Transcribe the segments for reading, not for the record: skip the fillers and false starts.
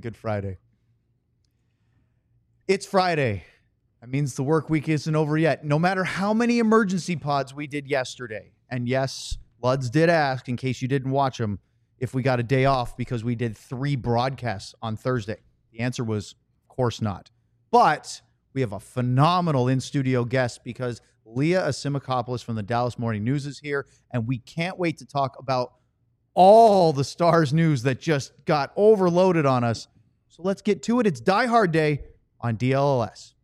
Good Friday. It's Friday. That means the work week isn't over yet. No matter how many emergency pods we did yesterday, and yes, Luds did ask, in case you didn't watch them, if we got a day off because we did 3 broadcasts on Thursday. The answer was, of course not. But we have a phenomenal in-studio guest because Leah Asimakopoulos from the Dallas Morning News is here, and we can't wait to talk about all the Stars news that just got overloaded on us. So let's get to it. It's Die Hard Day on DLLS.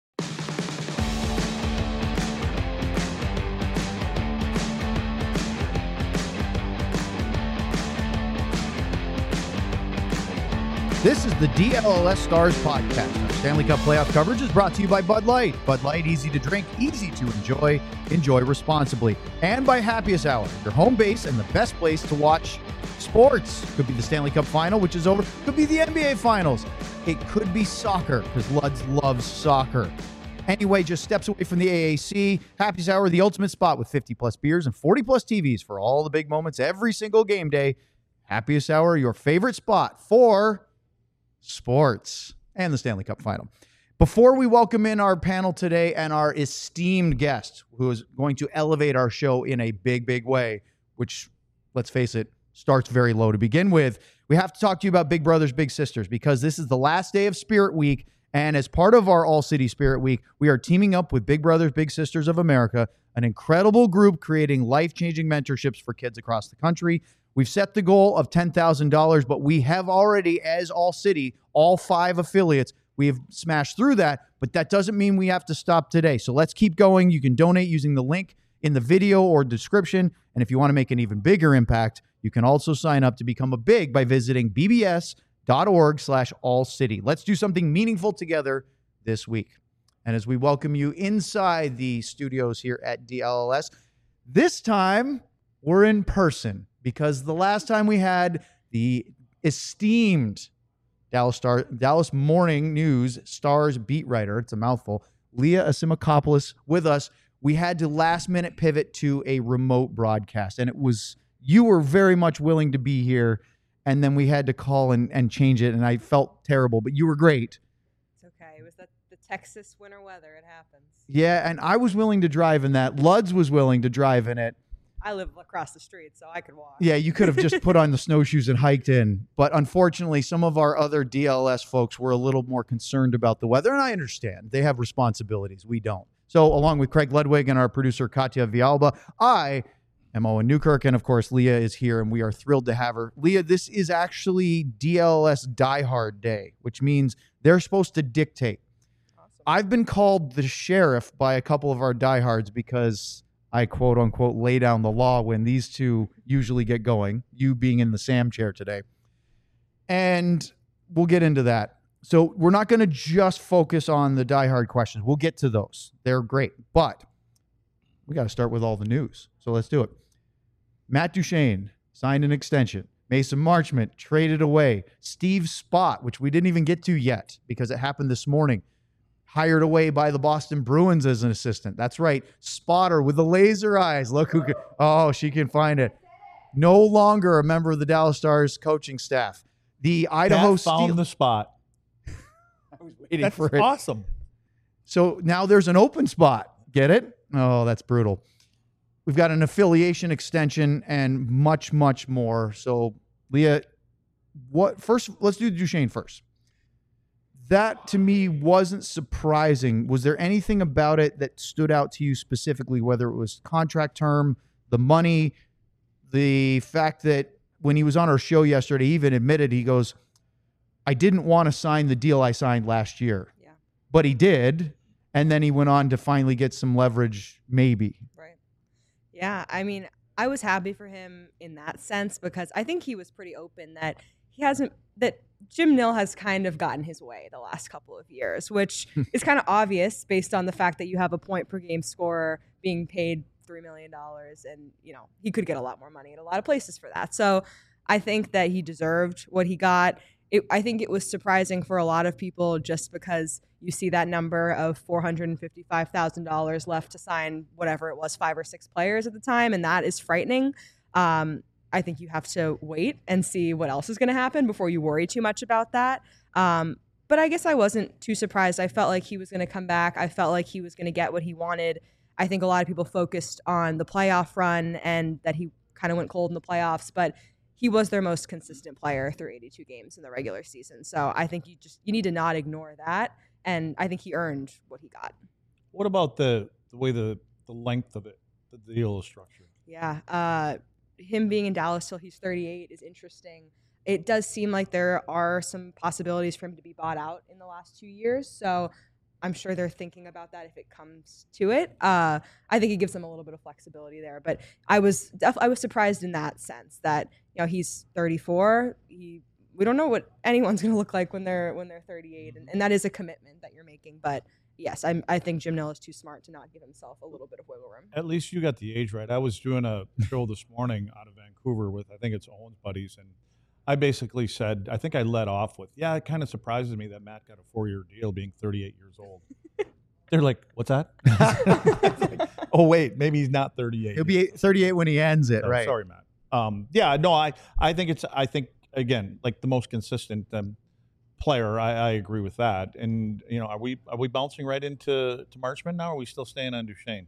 This is the DLLS Stars podcast. Our Stanley Cup playoff coverage is brought to you by Bud Light. Bud Light, easy to drink, easy to enjoy. Enjoy responsibly. And by Happiest Hour, your home base and the best place to watch sports. Could be the Stanley Cup final, which is over. Could be the NBA finals. It could be soccer, because Luds loves soccer. Anyway, just steps away from the AAC. Happiest Hour, the ultimate spot with 50-plus beers and 40-plus TVs for all the big moments every single game day. Happiest Hour, your favorite spot for sports and the Stanley Cup final. Before we welcome in our panel today and our esteemed guest, who is going to elevate our show in a big, big way, which, let's face it, starts very low to begin with, we have to talk to you about Big Brothers Big Sisters, because this is the last day of Spirit Week, and as part of our All City Spirit Week, we are teaming up with Big Brothers Big Sisters of America, an incredible group creating life-changing mentorships for kids across the country. We've set the goal of $10,000, but we have already, as All City, all 5 affiliates, we have smashed through that, but that doesn't mean we have to stop today. So let's keep going. You can donate using the link in the video or description, and if you want to make an even bigger impact, you can also sign up to become a big by visiting bbs.org/allcity. Let's do something meaningful together this week. And as we welcome you inside the studios here at DLLS, this time we're in person, because the last time we had the esteemed Dallas Morning News Stars beat writer, it's a mouthful, Leah Asimakopoulos with us, we had to last minute pivot to a remote broadcast. And you were very much willing to be here, and then we had to call and change it, and I felt terrible, but you were great. It's okay. It was the Texas winter weather. It happens. Yeah, and I was willing to drive in that. Luds was willing to drive in it. I live across the street, so I could walk. Yeah, you could have just put on the snowshoes and hiked in. But unfortunately, some of our other DLS folks were a little more concerned about the weather, and I understand. They have responsibilities. We don't. So along with Craig Ludwig and our producer, Katya Vialba, I am Owen Newkirk, and of course, Leah is here, and we are thrilled to have her. Leah, this is actually DLS Die Hard Day, which means they're supposed to dictate. Awesome. I've been called the sheriff by a couple of our diehards because I quote unquote lay down the law when these two usually get going, you being in the Sam chair today. And we'll get into that. So we're not going to just focus on the Die Hard questions. We'll get to those. They're great. But we got to start with all the news. So let's do it. Matt Duchene signed an extension. Mason Marchment traded away. Steve Spott, which we didn't even get to yet because it happened this morning, hired away by the Boston Bruins as an assistant. That's right. Spotter with the laser eyes. Look who can. Oh, she can find it. No longer a member of the Dallas Stars coaching staff. The Idaho Steel found the spot. I was waiting That's for it. Awesome. So now there's an open spot. Get it? Oh, that's brutal. We've got an affiliation extension and much, much more. So, Leah, let's do Duchene first. That, to me, wasn't surprising. Was there anything about it that stood out to you specifically, whether it was contract term, the money, the fact that when he was on our show yesterday, he even admitted, he goes, I didn't want to sign the deal I signed last year. Yeah. But he did, and then he went on to finally get some leverage, maybe. Right. Yeah, I mean, I was happy for him in that sense because I think he was pretty open that Jim Nill has kind of gotten his way the last couple of years, which is kind of obvious based on the fact that you have a point per game scorer being paid $3 million, and he could get a lot more money in a lot of places for that. So I think that he deserved what he got. I think it was surprising for a lot of people just because you see that number of $455,000 left to sign whatever it was, 5 or 6 players at the time, and that is frightening. I think you have to wait and see what else is going to happen before you worry too much about that. But I guess I wasn't too surprised. I felt like he was going to come back. I felt like he was going to get what he wanted. I think a lot of people focused on the playoff run and that he kind of went cold in the playoffs, but he was their most consistent player through 82 games in the regular season. So I think you need to not ignore that. And I think he earned what he got. What about the way the length of it, the deal is structured? Yeah. Him being in Dallas till he's 38 is interesting. It does seem like there are some possibilities for him to be bought out in the last 2 years. So I'm sure they're thinking about that if it comes to it. I think it gives them a little bit of flexibility there. But I was surprised in that sense that, you know, he's 34. We don't know what anyone's going to look like when they're 38, and that is a commitment that you're making. But yes, I think Jim Nill is too smart to not give himself a little bit of wiggle room. At least you got the age right. I was doing a show this morning out of Vancouver with, I think it's Owen's buddies, and I basically said, I think I led off with, yeah, it kind of surprises me that Matt got a 4-year deal being 38 years old. They're like, what's that? Like, oh, wait, maybe he's not 38. He'll be 38 when he ends it, right? Sorry, Matt. Yeah, no, I think again, like the most consistent player. I agree with that. And you know, are we bouncing right into Marchment now? Or are we still staying on Duchesne?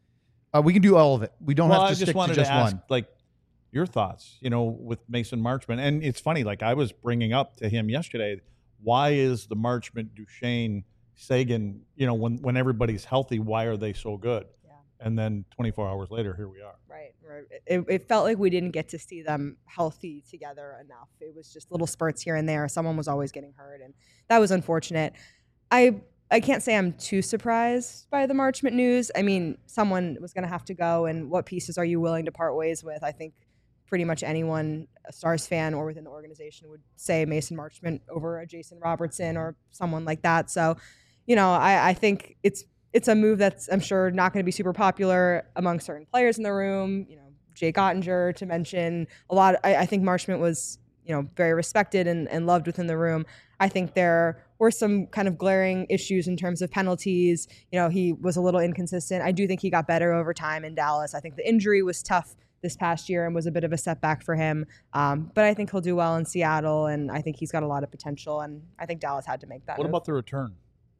We can do all of it. We don't have to stick to just ask, one. Like your thoughts, you know, with Mason Marchment. And it's funny, like I was bringing up to him yesterday, why is the Marchment, Duchesne, Seguin, you know, when everybody's healthy, why are they so good? Yeah. And then 24 hours later, here we are. Right. It felt like we didn't get to see them healthy together enough. It was just little spurts here and there. Someone was always getting hurt, and that was unfortunate. I can't say I'm too surprised by the Marchment news. I mean, someone was going to have to go, and what pieces are you willing to part ways with? I think pretty much anyone, a Stars fan or within the organization, would say Mason Marchment over a Jason Robertson or someone like that. So, you know, I think it's a move that's, I'm sure, not going to be super popular among certain players in the room. You know, Jake Ottinger, to mention a lot. I think Marchment was, you know, very respected and loved within the room. I think there were some kind of glaring issues in terms of penalties. You know, he was a little inconsistent. I do think he got better over time in Dallas. I think the injury was tough this past year and was a bit of a setback for him. But I think he'll do well in Seattle, and I think he's got a lot of potential, and I think Dallas had to make that move. What about the return?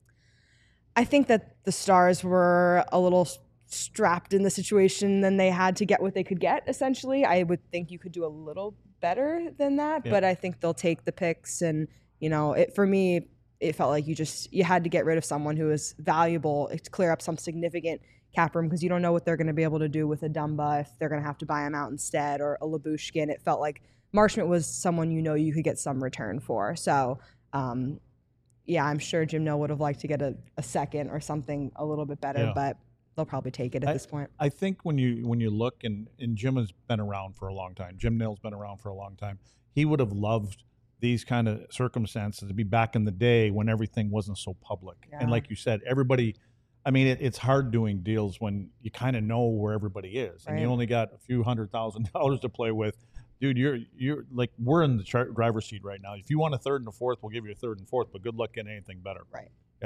I think that the Stars were a little strapped in the situation than they had to get what they could get, essentially. I would think you could do a little better than that, but I think they'll take the picks. And, you know, for me, it felt like you had to get rid of someone who is valuable to clear up some significant cap room, because you don't know what they're going to be able to do with a Dumba, if they're going to have to buy him out instead, or a Labushkin. It felt like Marchment was someone you could get some return for. So, yeah, I'm sure Jim Nill would have liked to get a second or something a little bit better, but they'll probably take it at this point. I think when you look, and Jim has been around for a long time, Jim Nill's been around for a long time, he would have loved these kind of circumstances to be back in the day when everything wasn't so public. Yeah. And like you said, everybody, I mean, it's hard doing deals when you kind of know where everybody is, and you only got a few $100,000 to play with. Dude, you're like, we're in the driver's seat right now. If you want a third and a fourth, we'll give you a third and fourth, but good luck getting anything better. Right. Yeah.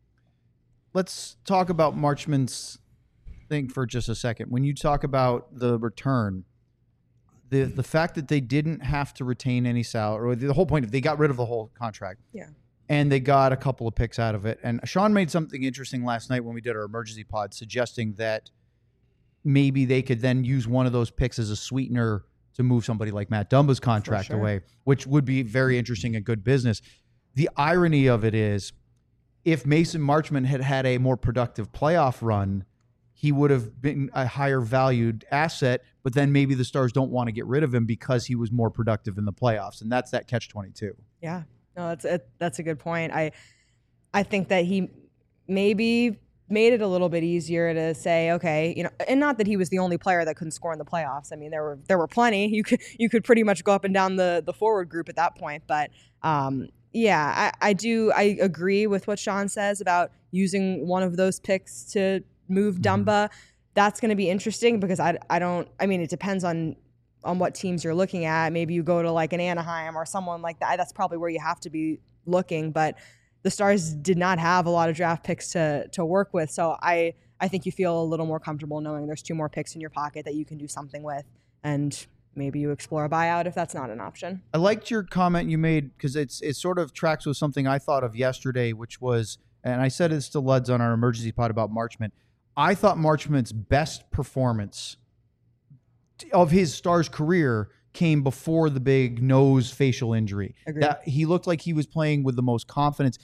Let's talk about Marchment's thing for just a second. When you talk about the return, the fact that they didn't have to retain any salary, or the whole point, if they got rid of the whole contract. Yeah. And they got a couple of picks out of it. And Sean made something interesting last night when we did our emergency pod, suggesting that maybe they could then use one of those picks as a sweetener to move somebody like Matt Dumba's contract away, which would be very interesting and good business. The irony of it is, if Mason Marchment had had a more productive playoff run, he would have been a higher valued asset, but then maybe the Stars don't want to get rid of him because he was more productive in the playoffs. And that's that catch-22. Yeah. No, that's a good point. I think that he maybe made it a little bit easier to say, okay, you know, and not that he was the only player that couldn't score in the playoffs. I mean, there were plenty. You could pretty much go up and down the forward group at that point. But yeah, I agree with what Sean says about using one of those picks to move Dumba. That's going to be interesting, because I mean, it depends on what teams you're looking at. Maybe you go to like an Anaheim or someone like that. That's probably where you have to be looking. But the Stars did not have a lot of draft picks to work with. So I think you feel a little more comfortable knowing there's 2 more picks in your pocket that you can do something with. And maybe you explore a buyout if that's not an option. I liked your comment you made because it sort of tracks with something I thought of yesterday, which was, and I said this to Luds on our emergency pod about Marchment. I thought Marchment's best performance of his Stars career came before the big nose facial injury. That he looked like he was playing with the most confidence.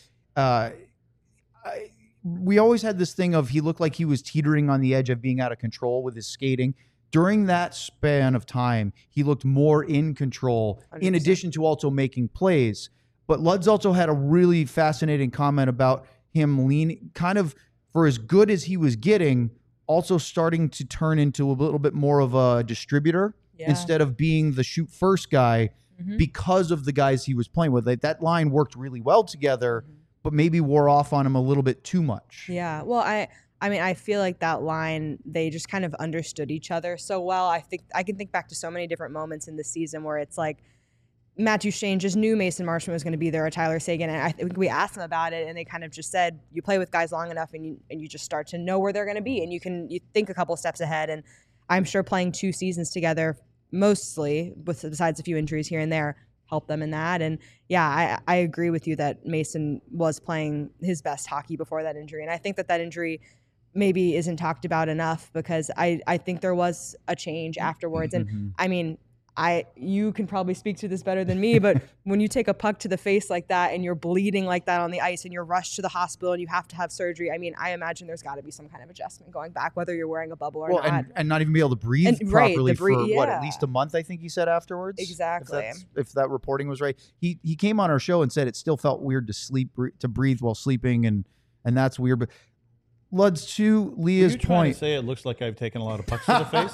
We always had this thing of he looked like he was teetering on the edge of being out of control with his skating. During that span of time, he looked more in control, 100%. In addition to also making plays. But Luds also had a really fascinating comment about him leaning, kind of for as good as he was getting, also starting to turn into a little bit more of a distributor instead of being the shoot first guy because of the guys he was playing with. Like, that line worked really well together, but maybe wore off on him a little bit too much. Yeah, well, I mean, I feel like that line, they just kind of understood each other so well. I think I can think back to so many different moments in the season where it's like Matt Duchene just knew Mason Marchment was going to be there, or Tyler Seguin, and I think we asked them about it, and they kind of just said, you play with guys long enough, and you just start to know where they're going to be, and you think a couple steps ahead. And I'm sure playing 2 seasons together, mostly, besides a few injuries here and there, helped them in that. And yeah, I agree with you that Mason was playing his best hockey before that injury, and I think that injury maybe isn't talked about enough because I think there was a change afterwards. And I mean, you can probably speak to this better than me, but when you take a puck to the face like that and you're bleeding like that on the ice and you're rushed to the hospital and you have to have surgery, I mean, I imagine there's got to be some kind of adjustment going back, whether you're wearing a bubble or not. And not even be able to breathe properly for at least a month, I think he said afterwards. Exactly. If that reporting was right. He came on our show and said it still felt weird to breathe while sleeping, and that's weird. But Luds, to Leah's point. To say it looks like I've taken a lot of pucks to the face?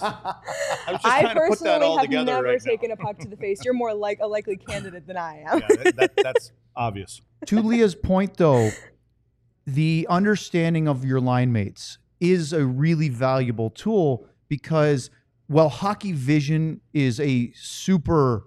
I personally have never taken a puck to the face. You're more like a likely candidate than I am. Yeah, that's obvious. To Leah's point, though, the understanding of your line mates is a really valuable tool because while hockey vision is a super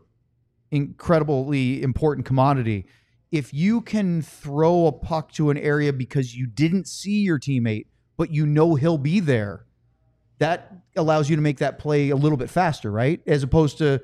incredibly important commodity, if you can throw a puck to an area because you didn't see your teammate, but you know he'll be there, that allows you to make that play a little bit faster, right? As opposed to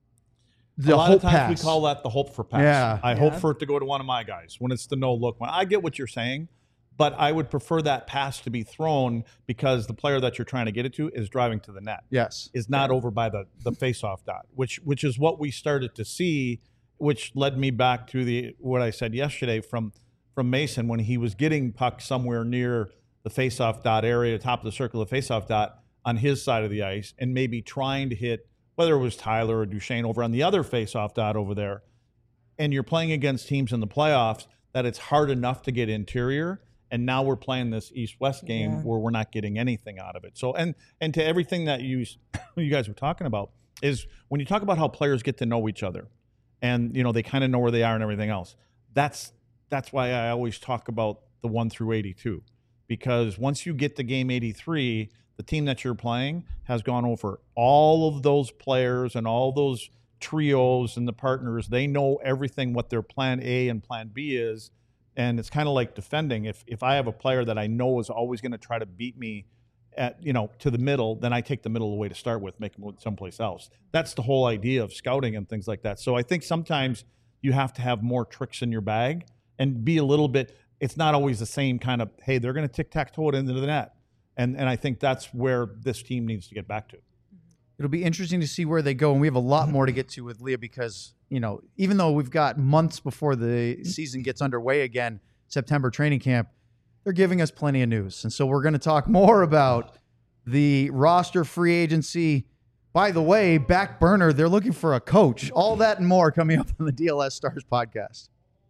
the hope pass. A lot of times we call that the hope for pass. Yeah. I hope for it to go to one of my guys when it's the no look one. I get what you're saying, but I would prefer that pass to be thrown because the player that you're trying to get it to is driving to the net. Yes. Is not over by the face-off dot, which is what we started to see, which led me back to what I said yesterday from Mason when he was getting pucks somewhere near the face-off dot area, top of the circle of face-off dot on his side of the ice, and maybe trying to hit, whether it was Tyler or Duchene over on the other face-off dot over there. And you're playing against teams in the playoffs that it's hard enough to get interior, and now we're playing this East-West game where we're not getting anything out of it. So, and to everything that you guys were talking about is when you talk about how players get to know each other, and they kind of know where they are and everything else. That's why I always talk about the 1 through 82, because once you get to game 83, the team that you're playing has gone over all of those players and all those trios and the partners. They know everything, what their plan A and plan B is, and it's kind of like defending. If I have a player that I know is always going to try to beat me at to the middle, then I take the middle away to start with, make them someplace else. That's the whole idea of scouting and things like that. So I think sometimes you have to have more tricks in your bag and be a little bit. It's not always the same kind of, hey, they're going to tic-tac-toe it into the net, and I think that's where this team needs to get back to. It'll be interesting to see where they go, and we have a lot more to get to with Leah because even though we've got months before the season gets underway again, September training camp, they're giving us plenty of news. And so we're going to talk more about the roster, free agency. By the way, back burner, they're looking for a coach. All that and more coming up on the DLS Stars podcast.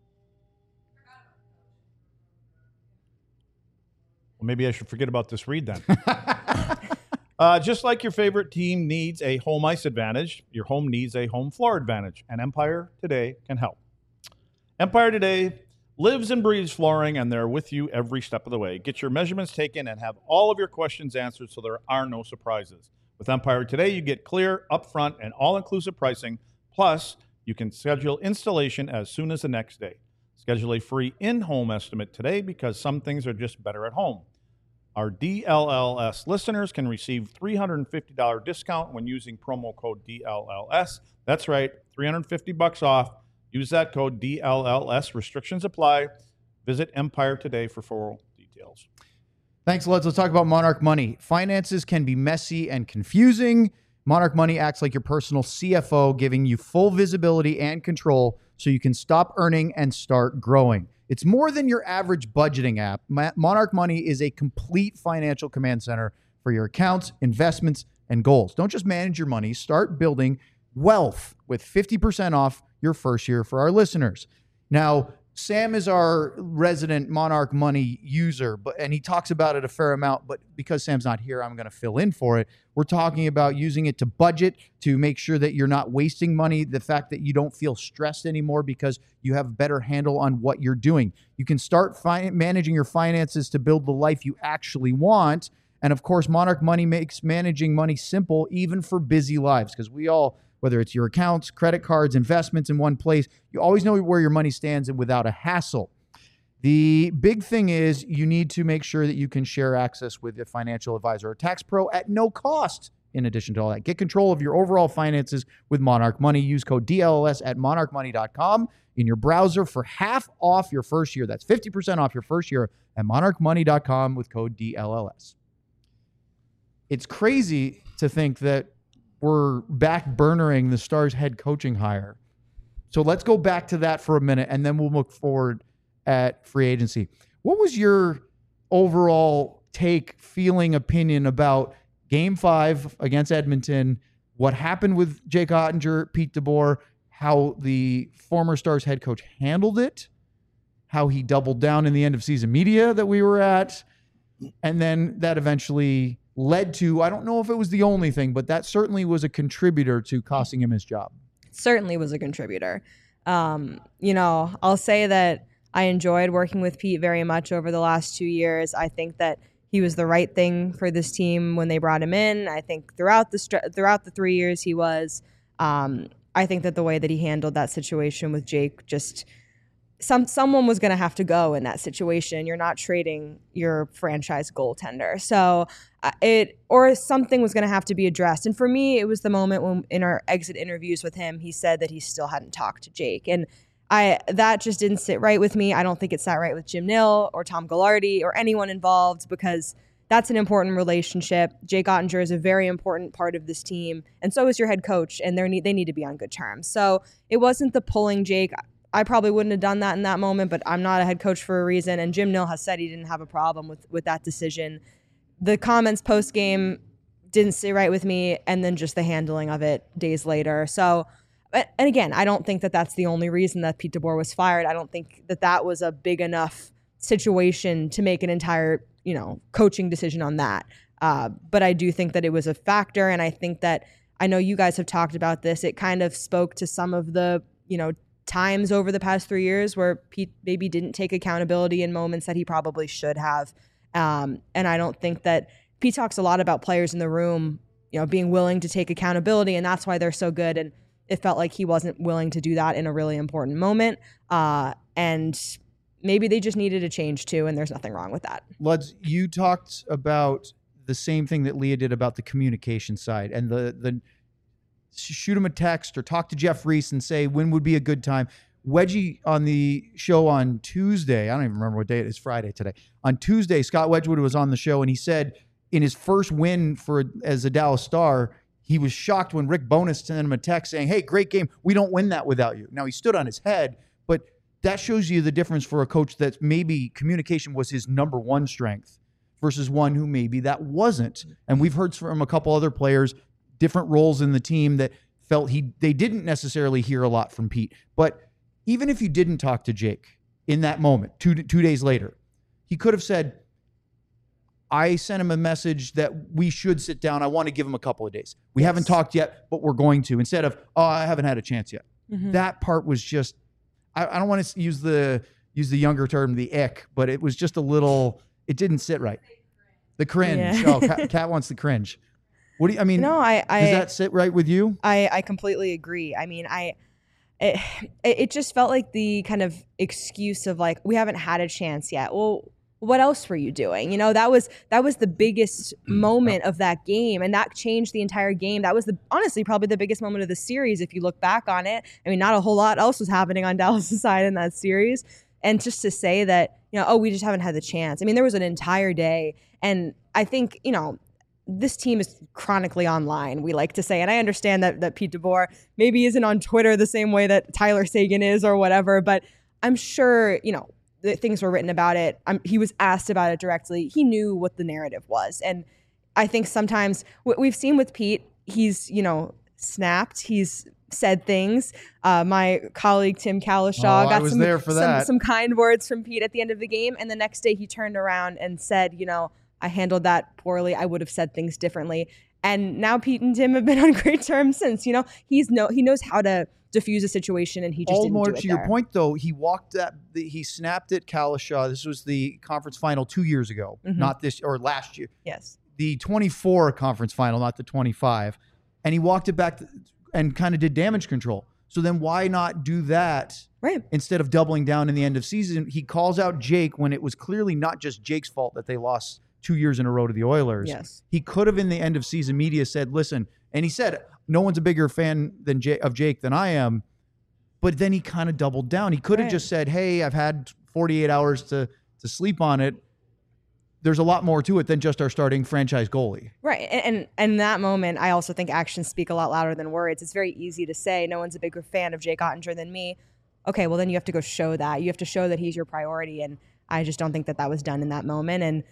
Well, maybe I should forget about this read then. Just like your favorite team needs a home ice advantage, your home needs a home floor advantage, and Empire Today can help. Empire Today lives and breathes flooring, and they're with you every step of the way. Get your measurements taken and have all of your questions answered so there are no surprises. With Empire Today, you get clear, upfront, and all-inclusive pricing. Plus, you can schedule installation as soon as the next day. Schedule a free in-home estimate today because some things are just better at home. Our DLLS listeners can receive $350 discount when using promo code DLLS. That's right, $350 off. Use that code DLLS. Restrictions apply. Visit Empire today for full details. Thanks, Leds. Let's talk about Monarch Money. Finances can be messy and confusing. Monarch Money acts like your personal CFO, giving you full visibility and control so you can stop earning and start growing. It's more than your average budgeting app. Monarch Money is a complete financial command center for your accounts, investments, and goals. Don't just manage your money. Start building wealth with 50% off your first year for our listeners. Now, Sam is our resident Monarch Money user, and he talks about it a fair amount, but because Sam's not here, I'm going to fill in for it. We're talking about using it to budget, to make sure that you're not wasting money, the fact that you don't feel stressed anymore because you have a better handle on what you're doing. You can start managing your finances to build the life you actually want. And of course, Monarch Money makes managing money simple, even for busy lives, because we all, whether it's your accounts, credit cards, investments in one place, you always know where your money stands and without a hassle. The big thing is you need to make sure that you can share access with a financial advisor or tax pro at no cost. In addition to all that, get control of your overall finances with Monarch Money. Use code DLLS at monarchmoney.com in your browser for half off your first year. That's 50% off your first year at monarchmoney.com with code DLLS. It's crazy to think that we're back burnering the Stars head coaching hire. So let's go back to that for a minute, and then we'll look forward at free agency. What was your overall take, feeling, opinion about Game 5 against Edmonton, what happened with Jake Ottinger, Pete DeBoer, how the former Stars head coach handled it, how he doubled down in the end of season media that we were at, and then that eventually led to, I don't know if it was the only thing, but that certainly was a contributor to costing him his job. Certainly was a contributor. I'll say that I enjoyed working with Pete very much over the last 2 years. I think that he was the right thing for this team when they brought him in. I think throughout the 3 years he was, I think that the way that he handled that situation with Jake, just someone was going to have to go in that situation. You're not trading your franchise goaltender. So something was going to have to be addressed. And for me, it was the moment when in our exit interviews with him, he said that he still hadn't talked to Jake. And that just didn't sit right with me. I don't think it sat right with Jim Nill or Tom Gaglardi or anyone involved, because that's an important relationship. Jake Ottinger is a very important part of this team, and so is your head coach, and they need to be on good terms. So it wasn't the pulling Jake. I probably wouldn't have done that in that moment, but I'm not a head coach for a reason, and Jim Nill has said he didn't have a problem with that decision. The comments post-game didn't sit right with me, and then just the handling of it days later. So, and again, I don't think that that's the only reason that Pete DeBoer was fired. I don't think that was a big enough situation to make an entire, coaching decision on that. But I do think that it was a factor, and I think that, I know you guys have talked about this, it kind of spoke to some of the, times over the past 3 years where Pete maybe didn't take accountability in moments that he probably should have. And I don't think that Pete talks a lot about players in the room, being willing to take accountability, and that's why they're so good. And it felt like he wasn't willing to do that in a really important moment. And maybe they just needed a change too, and there's nothing wrong with that. Luds, you talked about the same thing that Leah did about the communication side and the shoot him a text or talk to Jeff Reese and say when would be a good time. Wedgie on the show on Tuesday, I don't even remember what day it is, Friday today. On Tuesday, Scott Wedgwood was on the show, and he said in his first win as a Dallas Star, he was shocked when Rick Bowness sent him a text saying, hey, great game. We don't win that without you. Now, he stood on his head, but that shows you the difference for a coach that maybe communication was his number one strength versus one who maybe that wasn't. And we've heard from a couple other players, different roles in the team, that felt they didn't necessarily hear a lot from Pete. But even if you didn't talk to Jake in that moment, two days later, he could have said, I sent him a message that we should sit down. I want to give him a couple of days. We haven't talked yet, but we're going to. Instead of, I haven't had a chance yet. Mm-hmm. That part was just, I don't want to use the younger term, the ick, but it was just a little, it didn't sit right. The cringe. Yeah. Oh, Kat wants the cringe. What do you, does that sit right with you? I completely agree. It just felt like the kind of excuse of like, we haven't had a chance yet. Well, what else were you doing? That was the biggest moment of that game, and that changed the entire game. That was honestly probably the biggest moment of the series if you look back on it. I mean, not a whole lot else was happening on Dallas' side in that series. And just to say that, we just haven't had the chance. I mean, there was an entire day, and I think, this team is chronically online, we like to say. And I understand that Pete DeBoer maybe isn't on Twitter the same way that Tyler Seguin is or whatever, but I'm sure, that things were written about it. He was asked about it directly. He knew what the narrative was. And I think sometimes what we've seen with Pete, he's, snapped. He's said things. My colleague Tim Kalishaw got some kind words from Pete at the end of the game. And the next day he turned around and said, I handled that poorly. I would have said things differently. And now Pete and Tim have been on great terms since. He knows how to diffuse a situation, and he just didn't do it. To your point, though, he snapped at Kalishaw. This was the conference final 2 years ago, not this or last year. Yes, the 24 conference final, not the 25, and he walked it back and kind of did damage control. So then why not do that? Right. Instead of doubling down in the end of season, he calls out Jake when it was clearly not just Jake's fault that they lost 2 years in a row to the Oilers. Yes. He could have in the end of season media said, listen, and he said, no one's a bigger fan of Jake than I am. But then he kind of doubled down. He could have just said, hey, I've had 48 hours to sleep on it. There's a lot more to it than just our starting franchise goalie. Right. And in that moment, I also think actions speak a lot louder than words. It's very easy to say, no one's a bigger fan of Jake Ottinger than me. Okay, well, then you have to go show that. You have to show that he's your priority. And I just don't think that was done in that moment. And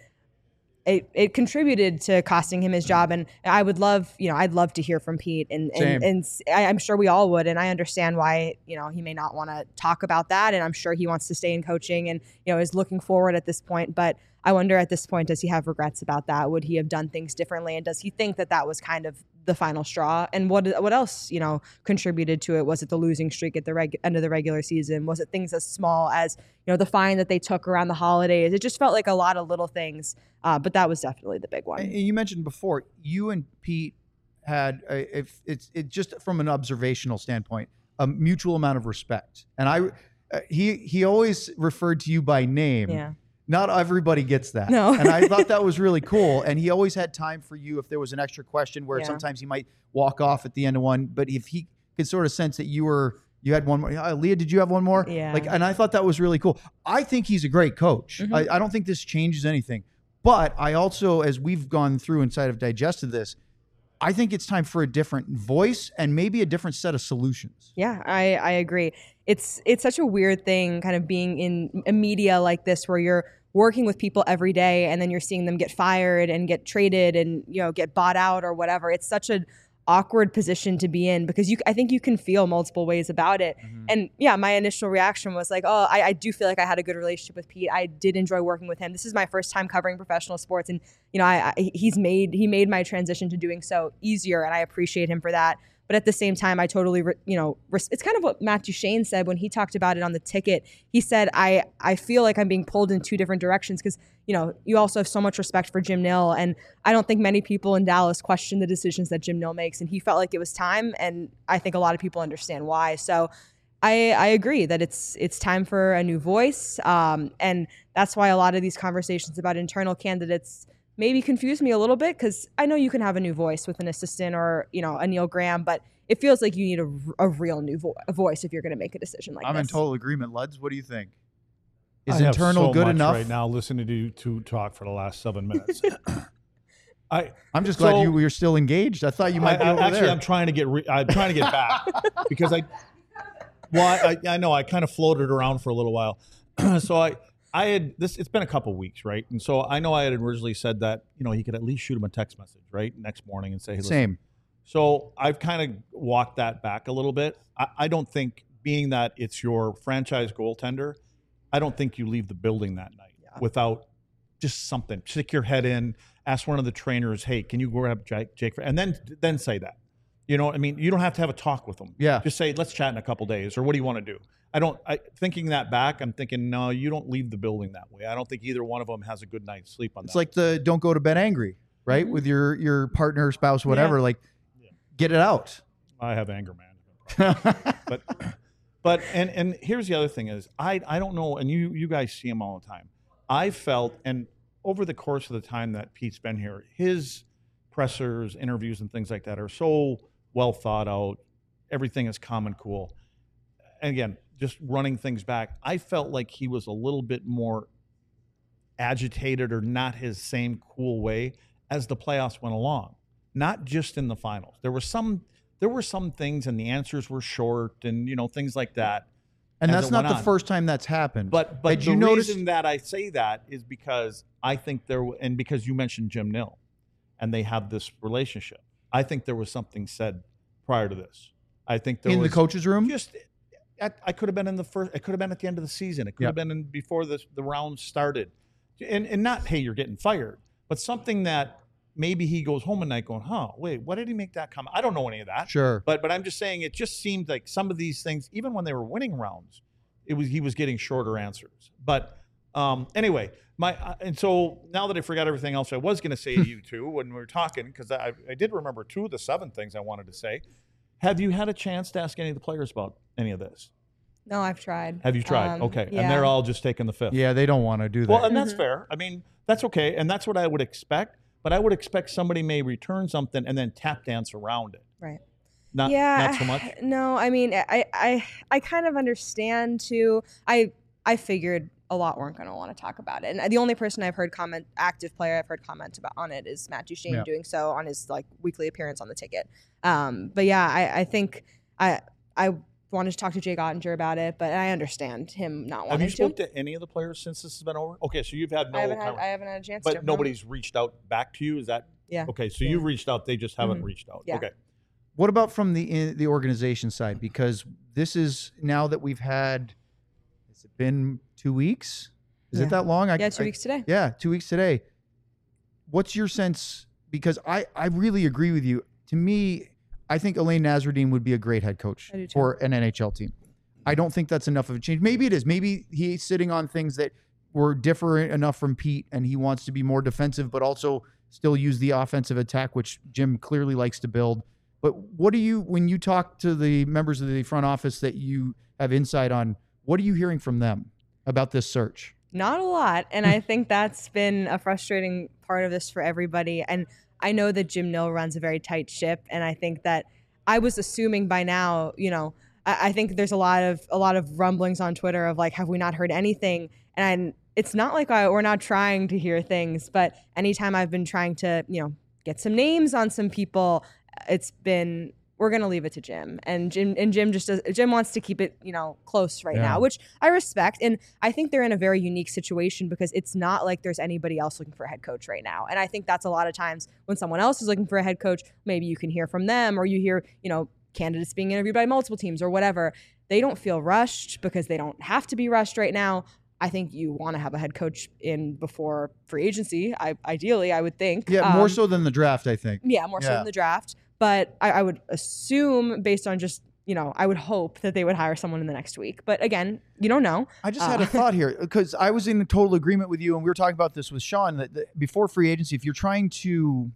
it contributed to costing him his job. And I would love, I'd love to hear from Pete, and I'm sure we all would. And I understand why, he may not want to talk about that. And I'm sure he wants to stay in coaching and, is looking forward at this point. But I wonder at this point, does he have regrets about that? Would he have done things differently? And does he think that was kind of the final straw? And what else, contributed to it? Was it the losing streak at the end of the regular season? Was it things as small as, the fine that they took around the holidays? It just felt like a lot of little things. But that was definitely the big one. And you mentioned before, you and Pete had, if it's just from an observational standpoint, a mutual amount of respect. And he always referred to you by name. Yeah. Not everybody gets that. No. And I thought that was really cool. And he always had time for you if there was an extra question where sometimes he might walk off at the end of one. But if he could sort of sense that you had one more. Leah, did you have one more? Yeah. And I thought that was really cool. I think he's a great coach. Mm-hmm. I don't think this changes anything. But I also, as we've gone through inside of digested this, I think it's time for a different voice and maybe a different set of solutions. Yeah, I agree. It's such a weird thing kind of being in a media like this where you're working with people every day and then you're seeing them get fired and get traded and get bought out or whatever. It's such an awkward position to be in because I think you can feel multiple ways about it. Mm-hmm. And yeah, my initial reaction was like, oh, I do feel like I had a good relationship with Pete. I did enjoy working with him. This is my first time covering professional sports, and he made my transition to doing so easier, and I appreciate him for that. But at the same time, I totally, it's kind of what Matt Duchene said when he talked about it on the ticket. He said, I feel like I'm being pulled in two different directions because, you also have so much respect for Jim Nill. And I don't think many people in Dallas question the decisions that Jim Nill makes. And he felt like it was time. And I think a lot of people understand why. So I agree that it's time for a new voice. And that's why a lot of these conversations about internal candidates maybe confuse me a little bit because I know you can have a new voice with an assistant or, a Neil Graham, but it feels like you need a real new voice if you're going to make a decision like this. I'm in total agreement. Luds, what do you think? Is internal good enough? Right now, listening to you two talk for the last 7 minutes. I'm just glad you were still engaged. I thought you might be over actually, there. I'm trying to get back because I know I kind of floated around for a little while. So I had this. It's been a couple weeks, right? And so I know I had originally said that he could at least shoot him a text message, right, next morning and say, "Hey, listen." Same. So I've kind of walked that back a little bit. I don't think, being that it's your franchise goaltender, I don't think you leave the building that night without just something. Stick your head in, ask one of the trainers, "Hey, can you grab Jake?" And then say that. You know what I mean? You don't have to have a talk with them. Yeah. Just say, "Let's chat in a couple days," or "What do you want to do?" Thinking that back, I'm thinking, no, you don't leave the building that way. I don't think either one of them has a good night's sleep on that. It's like the don't go to bed angry, right? Mm-hmm. With your partner, spouse, whatever. Yeah. Get it out. I have anger management. but here's the other thing is I don't know, and you guys see them all the time. I felt, and over the course of the time that Pete's been here, his pressers, interviews, and things like that are so well thought out. Everything is calm and cool. And again, just running things back, I felt like he was a little bit more agitated or not his same cool way as the playoffs went along. Not just in the finals. There were some things, and the answers were short, and things like that. And that's not the first time that's happened. But Did the you notice reason that I say that is because I think and because you mentioned Jim Nill, and they have this relationship. I think there was something said prior to this. I think there was the coach's room. I could have been in the first. It could have been at the end of the season. It could have been before the round started, and not, hey, you're getting fired, but something that maybe he goes home at night going, wait, why did he make that comment? I don't know any of that. Sure, but I'm just saying it just seemed like some of these things, even when they were winning rounds, he was getting shorter answers. But anyway, and so now that I forgot everything else I was going to say to you two when we were talking, because I did remember 2 of the 7 things I wanted to say. Have you had a chance to ask any of the players about any of this? No, I've tried. Have you tried? Okay. Yeah. And they're all just taking the fifth. Yeah, they don't want to do that. Well, and that's fair. I mean, that's okay. And that's what I would expect. But I would expect somebody may return something and then tap dance around it. Right. Not so much? No, I mean, I kind of understand too. I figured a lot weren't going to want to talk about it. And the only person I've heard active player I've heard comment on it is Matt Duchene doing so on his weekly appearance on the ticket. But yeah, I think I wanted to talk to Jake Ottinger about it, but I understand him not wanting to. Have you spoke to any of the players since this has been over? Okay, so you've had no. I haven't had a chance to. But nobody's reached out back to you? Is that? Yeah. Okay, so you reached out, they just haven't reached out. Yeah. Okay. What about from the organization side? Because this is now that we've had, has it been 2 weeks? Is it that long? 2 weeks today. Yeah, 2 weeks today. What's your sense? Because I really agree with you. To me, I think Elaine Nasruddin would be a great head coach for an NHL team. I don't think that's enough of a change. Maybe it is. Maybe he's sitting on things that were different enough from Pete, and he wants to be more defensive, but also still use the offensive attack, which Jim clearly likes to build. But what do you, when you talk to the members of the front office that you have insight on, what are you hearing from them about this search? Not a lot. And I think that's been a frustrating part of this for everybody. And I know that Jim Nill runs a very tight ship. And I think that I was assuming by now, I think there's a lot of rumblings on Twitter of have we not heard anything? And it's not like we're not trying to hear things, but anytime I've been trying to, get some names on some people, it's been, we're going to leave it to Jim. And Jim wants to keep it, close right now, which I respect. And I think they're in a very unique situation because it's not like there's anybody else looking for a head coach right now. And I think that's a lot of times when someone else is looking for a head coach, maybe you can hear from them, or you hear, candidates being interviewed by multiple teams or whatever. They don't feel rushed because they don't have to be rushed right now. I think you want to have a head coach in before free agency. Ideally, I would think. Yeah, more so than the draft, I think. Yeah, more so than the draft. But I would assume, based on just, I would hope that they would hire someone in the next week. But again, you don't know. I just had a thought here because I was in total agreement with you, and we were talking about this with Sean, that before free agency, if you're trying to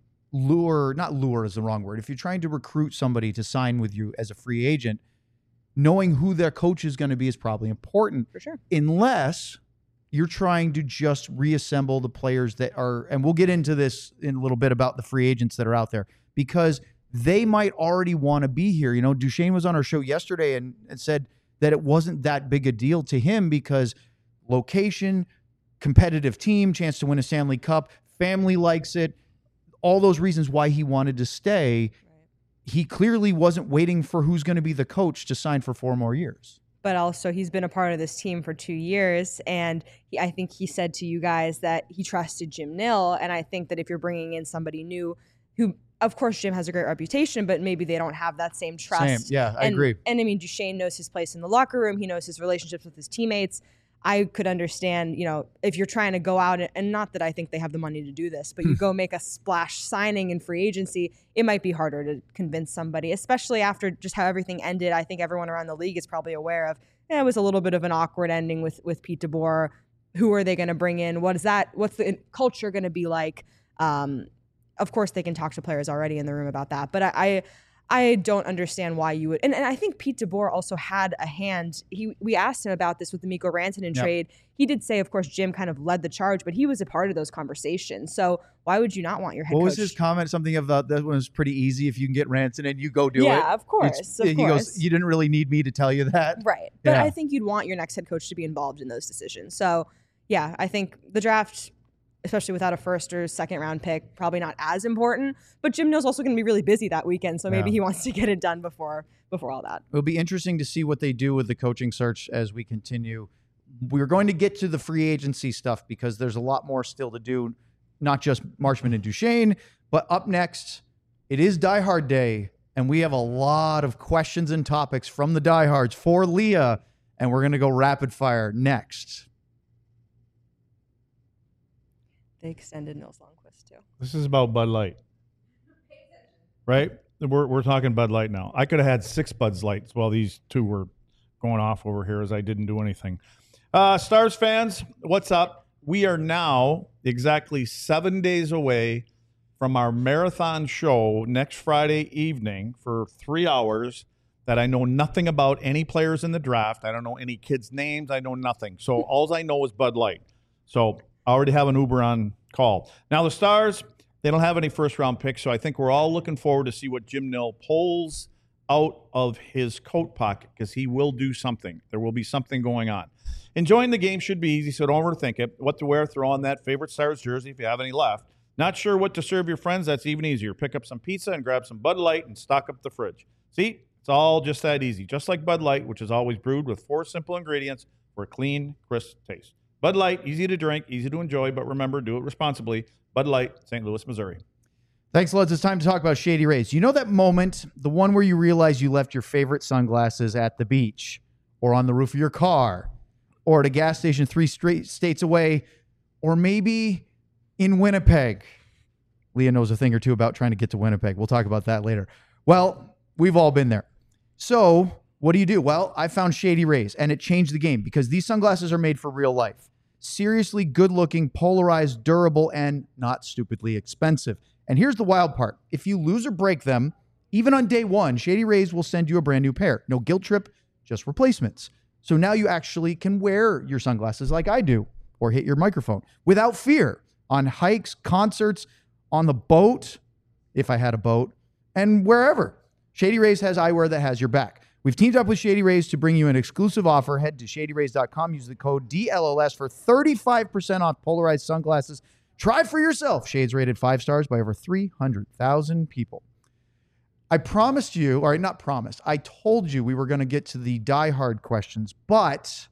not lure is the wrong word, if you're trying to recruit somebody to sign with you as a free agent, knowing who their coach is going to be is probably important. For sure. Unless you're trying to just reassemble the players that are, and we'll get into this in a little bit about the free agents that are out there, because they might already want to be here. Duchene was on our show yesterday and said that it wasn't that big a deal to him because location, competitive team, chance to win a Stanley Cup, family likes it, all those reasons why he wanted to stay. Right. He clearly wasn't waiting for who's going to be the coach to sign for 4 more years. But also he's been a part of this team for 2 years. And I think he said to you guys that he trusted Jim Nill. And I think that if you're bringing in somebody new who, of course, Jim has a great reputation, but maybe they don't have that same trust. Yeah, I agree. And I mean, Duchene knows his place in the locker room. He knows his relationships with his teammates. I could understand, if you're trying to go out, and not that I think they have the money to do this, but you go make a splash signing in free agency, it might be harder to convince somebody, especially after just how everything ended. I think everyone around the league is probably aware of, it was a little bit of an awkward ending with Pete DeBoer. Who are they going to bring in? What's the culture going to be like? Of course, they can talk to players already in the room about that. But I don't understand why you would. And I think Pete DeBoer also had a hand. We asked him about this with the Mikko Rantanen trade. He did say, of course, Jim kind of led the charge, but he was a part of those conversations. So why would you not want your head coach? What was his comment? Something about that was pretty easy. If you can get Rantanen, you go do it. Yeah, of course. He goes, you didn't really need me to tell you that. Right. But I think you'd want your next head coach to be involved in those decisions. So, yeah, I think the draft, especially without a first or second round pick, probably not as important. But Jim Nill's also going to be really busy that weekend, so maybe he wants to get it done before all that. It'll be interesting to see what they do with the coaching search as we continue. We're going to get to the free agency stuff because there's a lot more still to do, not just Marchment and Duchesne, but up next, it is Die Hard Day, and we have a lot of questions and topics from the diehards for Leah, and we're going to go rapid fire next. They extended Nils Lundkvist too. This is about Bud Light, right? We're talking Bud Light now. I could have had 6 Bud Lights while these 2 were going off over here as I didn't do anything. Stars fans, what's up? We are now exactly 7 days away from our marathon show next Friday evening for 3 hours that I know nothing about any players in the draft. I don't know any kids' names. I know nothing. So all I know is Bud Light. So I already have an Uber on call. Now the Stars, they don't have any first-round picks, so I think we're all looking forward to see what Jim Nill pulls out of his coat pocket because he will do something. There will be something going on. Enjoying the game should be easy, so don't overthink it. What to wear, throw on that favorite Stars jersey if you have any left. Not sure what to serve your friends? That's even easier. Pick up some pizza and grab some Bud Light and stock up the fridge. See, it's all just that easy. Just like Bud Light, which is always brewed with 4 simple ingredients for a clean, crisp taste. Bud Light, easy to drink, easy to enjoy, but remember, do it responsibly. Bud Light, St. Louis, Missouri. Thanks, Luds. It's time to talk about Shady Rays. You know that moment, the one where you realize you left your favorite sunglasses at the beach or on the roof of your car or at a gas station 3 states away or maybe in Winnipeg. Leah knows a thing or two about trying to get to Winnipeg. We'll talk about that later. Well, we've all been there. So what do? Well, I found Shady Rays, and it changed the game because these sunglasses are made for real life. Seriously good-looking, polarized, durable, and not stupidly expensive. And here's the wild part. If you lose or break them, even on day 1, Shady Rays will send you a brand new pair. No guilt trip, just replacements. So now you actually can wear your sunglasses like I do or hit your microphone without fear on hikes, concerts, on the boat, if I had a boat, and wherever. Shady Rays has eyewear that has your back. We've teamed up with Shady Rays to bring you an exclusive offer. Head to shadyrays.com. Use the code DLLS for 35% off polarized sunglasses. Try for yourself. Shades rated 5 stars by over 300,000 people. I promised you, or not promised, I told you we were going to get to the die-hard questions, but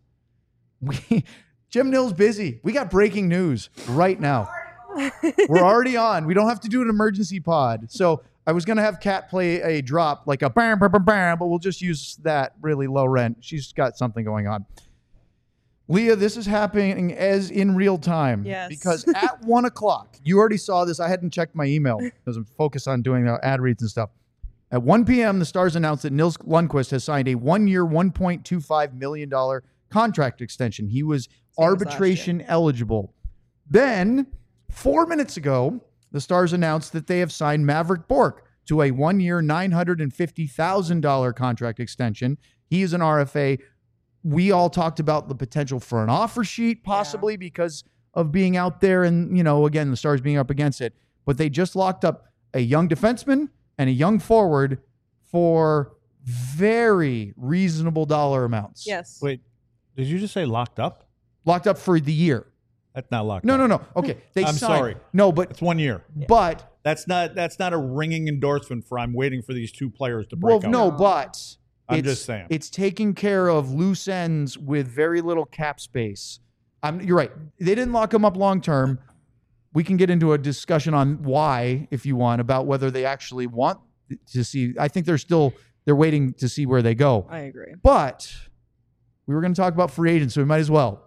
Jim Nill's busy. We got breaking news right now. We're already on. We don't have to do an emergency pod. So I was going to have Kat play a drop, like a bam, bam, bam, bam, but we'll just use that really low rent. She's got something going on. Leah, this is happening as in real time. Yes. Because at 1 o'clock, you already saw this. I hadn't checked my email because I'm focused on doing the ad reads and stuff. At 1 p.m., the Stars announced that Nils Lundkvist has signed a 1-year, $1.25 million contract extension. He was arbitration eligible. Then, 4 minutes ago, the Stars announced that they have signed Mavrik Bourque to a 1-year, $950,000 contract extension. He is an RFA. We all talked about the potential for an offer sheet, possibly because of being out there and, you know, again, the Stars being up against it. But they just locked up a young defenseman and a young forward for very reasonable dollar amounts. Yes. Wait, did you just say locked up? Locked up for the year. That's not locked No, up. no. Okay. I'm signed. sorry. No, but It's 1 year. but That's not a ringing endorsement for I'm waiting for these 2 players to break out. no, but I'm just saying. It's taking care of loose ends with very little cap space. You're right. They didn't lock him up long term. We can get into a discussion on why, if you want, about whether they actually want to see. I think they're waiting to see where they go. I agree. But we were going to talk about free agents, so we might as well.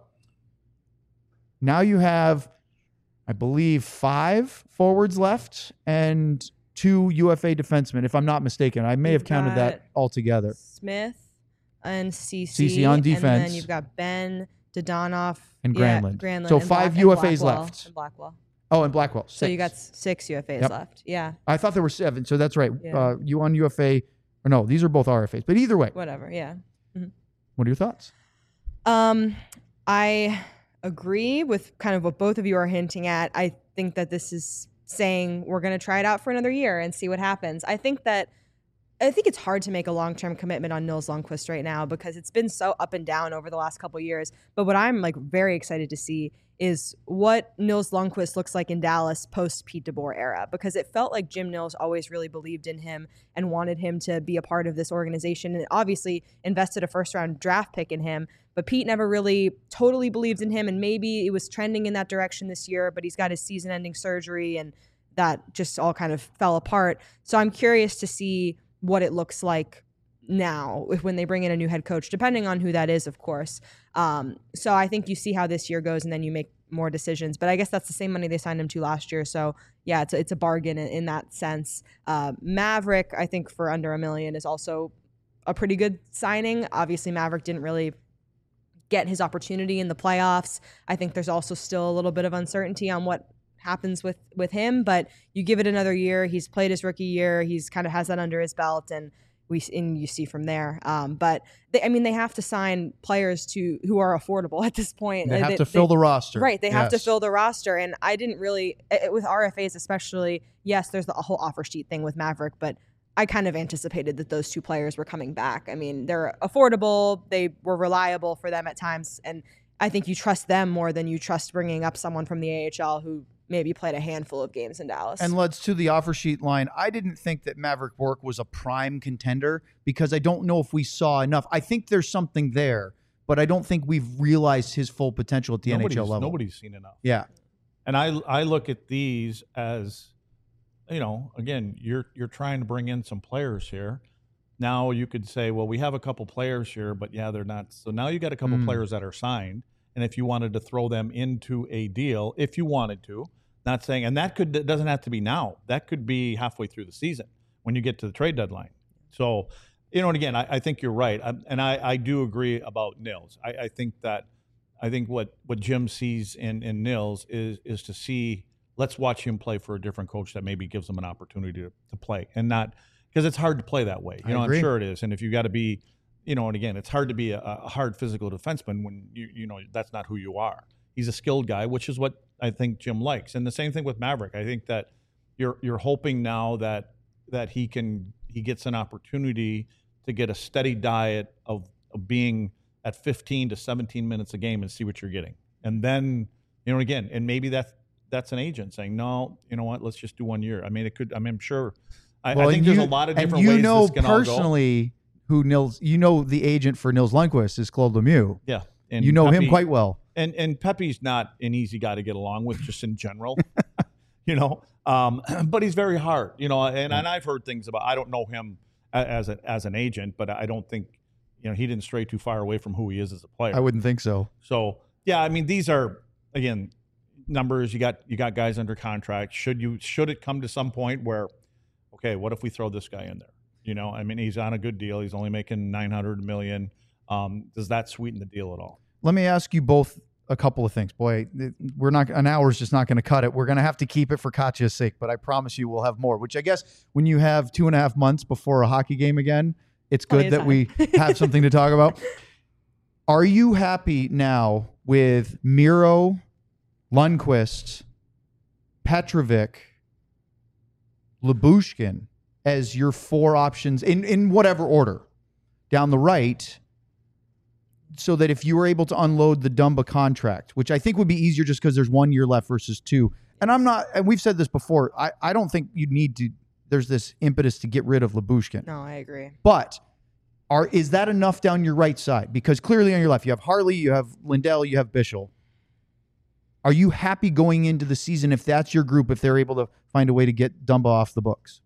Now you have, I believe, 5 forwards left and 2 UFA defensemen, if I'm not mistaken. I may have counted that all together. Smith and CC. CC on defense. And then you've got Ben, Dodonov, And Granlund. Granlund So and 5 and UFAs Blackwell, left. And Blackwell. Oh, and Blackwell. 6. So you got 6 UFAs left. Yeah. I thought there were 7, so that's right. Yeah. You on UFA, or no, these are both RFAs. But either way. Whatever, yeah. Mm-hmm. What are your thoughts? I agree with kind of what both of you are hinting at. I think that this is saying we're going to try it out for another year and see what happens. I think it's hard to make a long-term commitment on Nils Lundkvist right now because it's been so up and down over the last couple of years. But what I'm like very excited to see is what Nils Lundkvist looks like in Dallas post Pete DeBoer era, because it felt like Jim Nils always really believed in him and wanted him to be a part of this organization, and obviously invested a first-round draft pick in him. But Pete never really totally believed in him, and maybe it was trending in that direction this year, but he's got his season-ending surgery, and that just all kind of fell apart. So I'm curious to see what it looks like now when they bring in a new head coach, depending on who that is, of course. So I think you see how this year goes and then you make more decisions. But I guess that's the same money they signed him to last year. So yeah, it's a bargain in that sense. Maverick, I think for under $1 million is also a pretty good signing. Obviously, Maverick didn't really get his opportunity in the playoffs. I think there's also still a little bit of uncertainty on what happens with him, but you give it another year. He's played his rookie year. He's kind of has that under his belt, and you see from there. But they have to sign players who are affordable at this point. They have to fill the roster. Right. They have to fill the roster. And I didn't really, with RFAs especially, yes, there's the whole offer sheet thing with Maverick, but I kind of anticipated that those 2 players were coming back. I mean, they're affordable. They were reliable for them at times. And I think you trust them more than you trust bringing up someone from the AHL who maybe played a handful of games in Dallas. And let's to the offer sheet line. I didn't think that Maverick Bourque was a prime contender because I don't know if we saw enough. I think there's something there, but I don't think we've realized his full potential at the NHL level. Nobody's seen enough. Yeah. And I look at these as, again, you're trying to bring in some players here. Now you could say, well, we have a couple players here, but yeah, they're not. So now you got a couple players that are signed. And if you wanted to throw them into a deal, if you wanted to, not saying, and that doesn't have to be now. That could be halfway through the season when you get to the trade deadline. So, and again, I think you're right. I do agree about Nils. I think what Jim sees in Nils is to see, let's watch him play for a different coach that maybe gives him an opportunity to play, and not, because it's hard to play that way. I'm sure it is. And if you got to be, and again, it's hard to be a hard physical defenseman when that's not who you are. He's a skilled guy, which is what I think Jim likes. And the same thing with Maverick. I think that you're hoping now that he gets an opportunity to get a steady diet of being at 15 to 17 minutes a game and see what you're getting. And then, again, and maybe that's an agent saying, no, you know what, let's just do 1 year. I mean, it could. I mean, I'm sure. I think there's a lot of different ways this can all go. Personally, who Nils, the agent for Nils Lundkvist is Claude Lemieux. Yeah. And you know Pepe, him quite well. And Pepe's not an easy guy to get along with just in general, but he's very hard, and I've heard things about, I don't know him as an agent, but I don't think, he didn't stray too far away from who he is as a player. I wouldn't think so. So, yeah, I mean, these are, again, numbers. You got guys under contract. Should it come to some point where, okay, what if we throw this guy in there? I mean, he's on a good deal. He's only making $900 million. Does that sweeten the deal at all? Let me ask you both a couple of things. Boy, an hour's just not going to cut it. We're going to have to keep it for Katya's sake, but I promise you we'll have more, which I guess when you have 2.5 months before a hockey game again, it's good that we have something to talk about. Are you happy now with Miro, Lundkvist, Petrovic, Lyubushkin as your 4 options in whatever order down the right, so that if you were able to unload the Dumba contract, which I think would be easier just because there's 1 year left versus 2. And we've said this before, I don't think you need to, there's this impetus to get rid of Lyubushkin. No, I agree. But is that enough down your right side? Because clearly on your left, you have Harley, you have Lindell, you have Bischel. Are you happy going into the season if that's your group, if they're able to find a way to get Dumba off the books?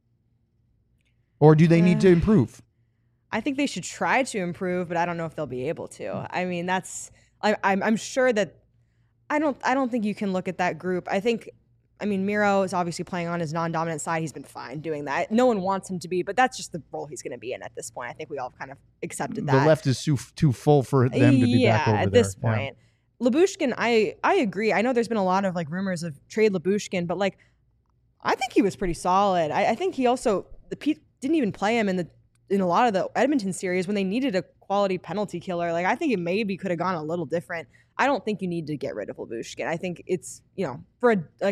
Or do they need to improve? I think they should try to improve, but I don't know if they'll be able to. I mean, I'm sure that I don't think you can look at that group. Miro is obviously playing on his non-dominant side. He's been fine doing that. No one wants him to be, but that's just the role he's going to be in at this point. I think we all kind of accepted that. The left is too full for them to be back over there. At this point. Lyubushkin, I agree. I know there's been a lot of like rumors of trade Lyubushkin, but like I think he was pretty solid. I think he also the Pete didn't even play him in a lot of the Edmonton series when they needed a quality penalty killer. Like I think it maybe could have gone a little different. I don't think you need to get rid of Lyubushkin. I think it's, for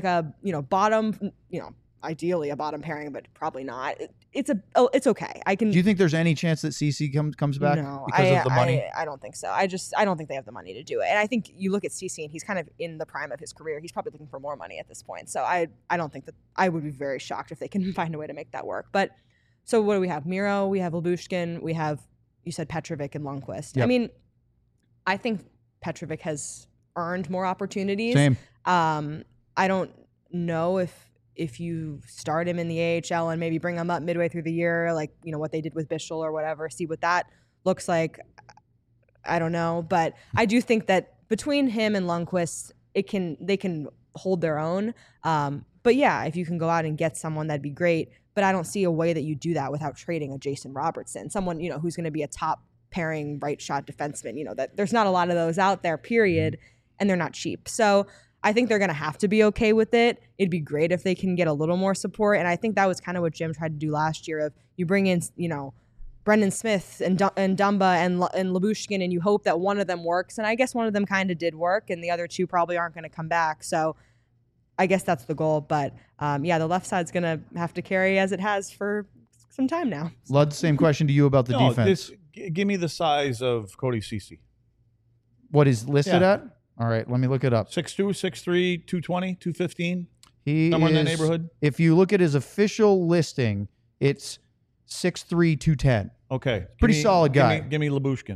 a bottom, ideally a bottom pairing, but probably not. It's okay. Do you think there's any chance that CC comes back because of the money? I don't think so. I don't think they have the money to do it. And I think you look at CC and he's kind of in the prime of his career. He's probably looking for more money at this point. So I don't think that I would be very shocked if they can find a way to make that work. But so what do we have? Miro, we have Lyubushkin, we have, you said Petrovic and Lundqvist. Yep. I mean, I think Petrovic has earned more opportunities. Same. I don't know if you start him in the AHL and maybe bring him up midway through the year, like, what they did with Bischel or whatever, see what that looks like. I don't know. But I do think that between him and Lundqvist, they can hold their own. But yeah, if you can go out and get someone, that'd be great. But I don't see a way that you do that without trading a Jason Robertson, someone, who's going to be a top pairing right shot defenseman. That there's not a lot of those out there, period, and they're not cheap. So I think they're going to have to be okay with it. It'd be great if they can get a little more support. And I think that was kind of what Jim tried to do last year of you bring in, Brendan Smith and Dumba and Lyubushkin, and you hope that one of them works. And I guess one of them kind of did work, and the other two probably aren't going to come back. So I guess that's the goal. But the left side's going to have to carry as it has for some time now. Lud, same question to you about the defense. Give me the size of Cody Ceci. What is listed at? All right, let me look it up. 6'2", 6'3", 220, 215. He somewhere is, in that neighborhood. If you look at his official listing, it's 6'3", 210. Okay. Pretty solid guy. Give me Lyubushkin.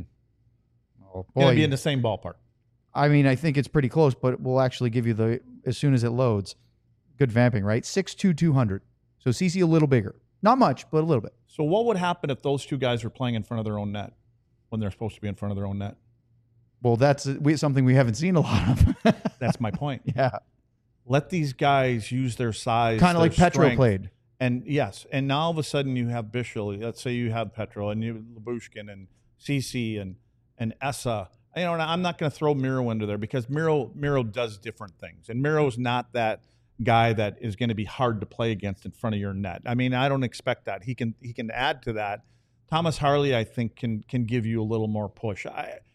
Oh, boy. Going to be in the same ballpark. I mean, I think it's pretty close, but we'll actually give you as soon as it loads. Good vamping, right? 6'2", 200. So CC a little bigger. Not much, but a little bit. So what would happen if those two guys were playing in front of their own net when they're supposed to be in front of their own net? Well, that's something we haven't seen a lot of. That's my point. Yeah. Let these guys use their size. Kind of like Petro played. And yes, and now all of a sudden you have Bischel. Let's say you have Petro and you have Lyubushkin and CC and Essa. And I'm not going to throw Miro into there because Miro does different things. And Miro's not that guy that is going to be hard to play against in front of your net. I mean, I don't expect that. He can add to that. Thomas Harley, I think, can give you a little more push.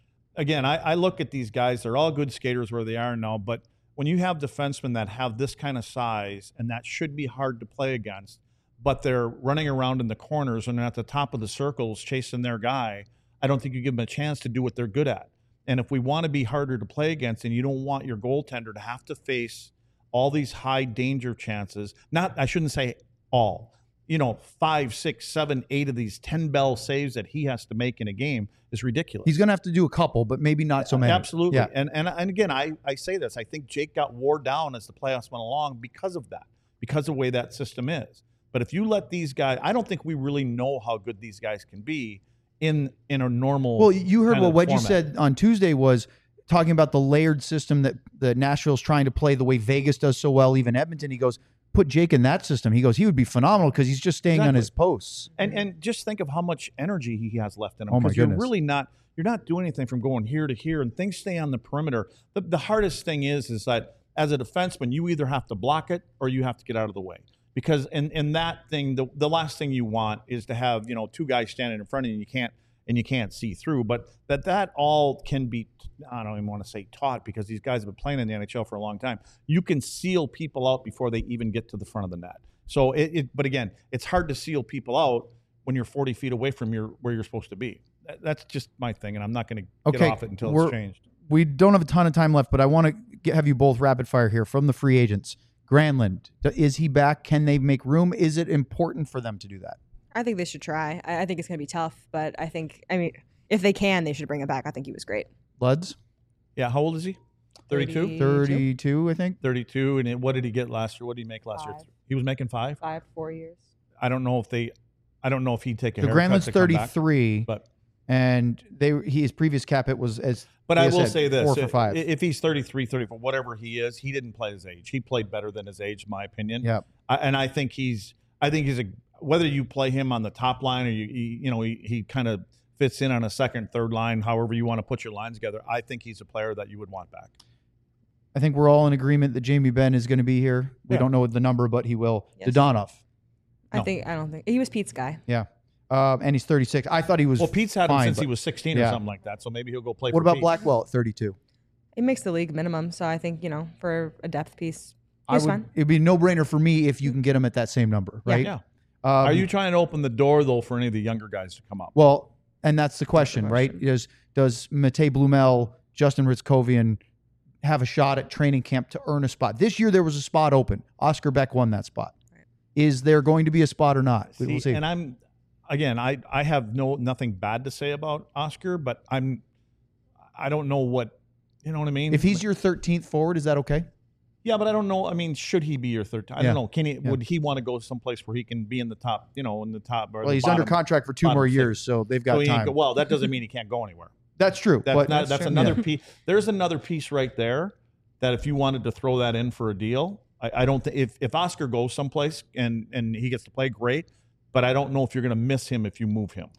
I look at these guys. They're all good skaters where they are now, but when you have defensemen that have this kind of size and that should be hard to play against, but they're running around in the corners and they're at the top of the circles chasing their guy, I don't think you give them a chance to do what they're good at. And if we want to be harder to play against and you don't want your goaltender to have to face all these high danger chances, I shouldn't say all, 5, 6, 7, 8 of these 10 bell saves that he has to make in a game is ridiculous. He's going to have to do a couple, but maybe not so many. Absolutely. Yeah. And again, I say this. I think Jake got wore down as the playoffs went along because of that, because of the way that system is. But if you let these guys, I don't think we really know how good these guys can be in a normal. Well, you heard what Wedgie format. said on Tuesday was talking about the layered system that Nashville's trying to play the way Vegas does so well, even Edmonton. He goes, put Jake in that system. He goes, he would be phenomenal because he's just staying on his posts. And just think of how much energy he has left in him. Oh my goodness. You're not doing anything from going here to here, and things stay on the perimeter. The hardest thing is that as a defenseman, you either have to block it or you have to get out of the way. Because in that thing, the last thing you want is to have two guys standing in front of you and you can't see through. But that all can be, I don't even want to say taught, because these guys have been playing in the NHL for a long time. You can seal people out before they even get to the front of the net. So but again, it's hard to seal people out when you're 40 feet away from where you're supposed to be. That's just my thing, and I'm not going to get off it until it's changed. We don't have a ton of time left, but I want to have you both rapid fire here from the free agents. Granlund, is he back? Can they make room? Is it important for them to do that? I think they should try. I think it's going to be tough, but I mean, if they can, they should bring him back. I think he was great. Luds? Yeah, how old is he? 32? 32, I think. 32, and what did he get last year? What did he make last year? He was making 5? 4 years. I don't know if he'd take a haircut. Granlund's 33, but and his previous cap hit was as. But I will say this: 4 for 5. If he's 33, 34, whatever he is, he didn't play his age. He played better than his age, in my opinion. Yeah. And I think he's whether you play him on the top line or he kind of fits in on a second, third line, however you want to put your lines together. I think he's a player that you would want back. I think we're all in agreement that Jamie Benn is going to be here. We don't know the number, but he will. Yes. Dodonov. I don't think he was Pete's guy. Yeah. And he's 36. I thought he was. Well, Pete's had him fine, since but he was 16 or something like that. So maybe he'll go play. What for about Pete. Blackwell at 32? It makes the league minimum, so I think for a depth piece, he's fine. It'd be a no-brainer for me if you can get him at that same number, right? Yeah. Are you trying to open the door though for any of the younger guys to come up? Well, and that's the question, right? Does Matej Blumel, Justin Ritzkovian have a shot at training camp to earn a spot? This year there was a spot open. Oscar Beck won that spot. Right. Is there going to be a spot or not? We'll see. And I have nothing bad to say about Oscar, but I don't know what, you know what I mean? If he's your 13th forward, is that okay? Yeah, but I don't know. I mean, should he be your 13th? I don't know. Would he want to go someplace where he can be in the top, in the top? Or well, he's under contract for 2 more years, so they've got time. Well, that doesn't mean he can't go anywhere. That's true. That's another piece. There's another piece right there that if you wanted to throw that in for a deal, I don't think if Oscar goes someplace and he gets to play, great. But I don't know if you're going to miss him if you move him.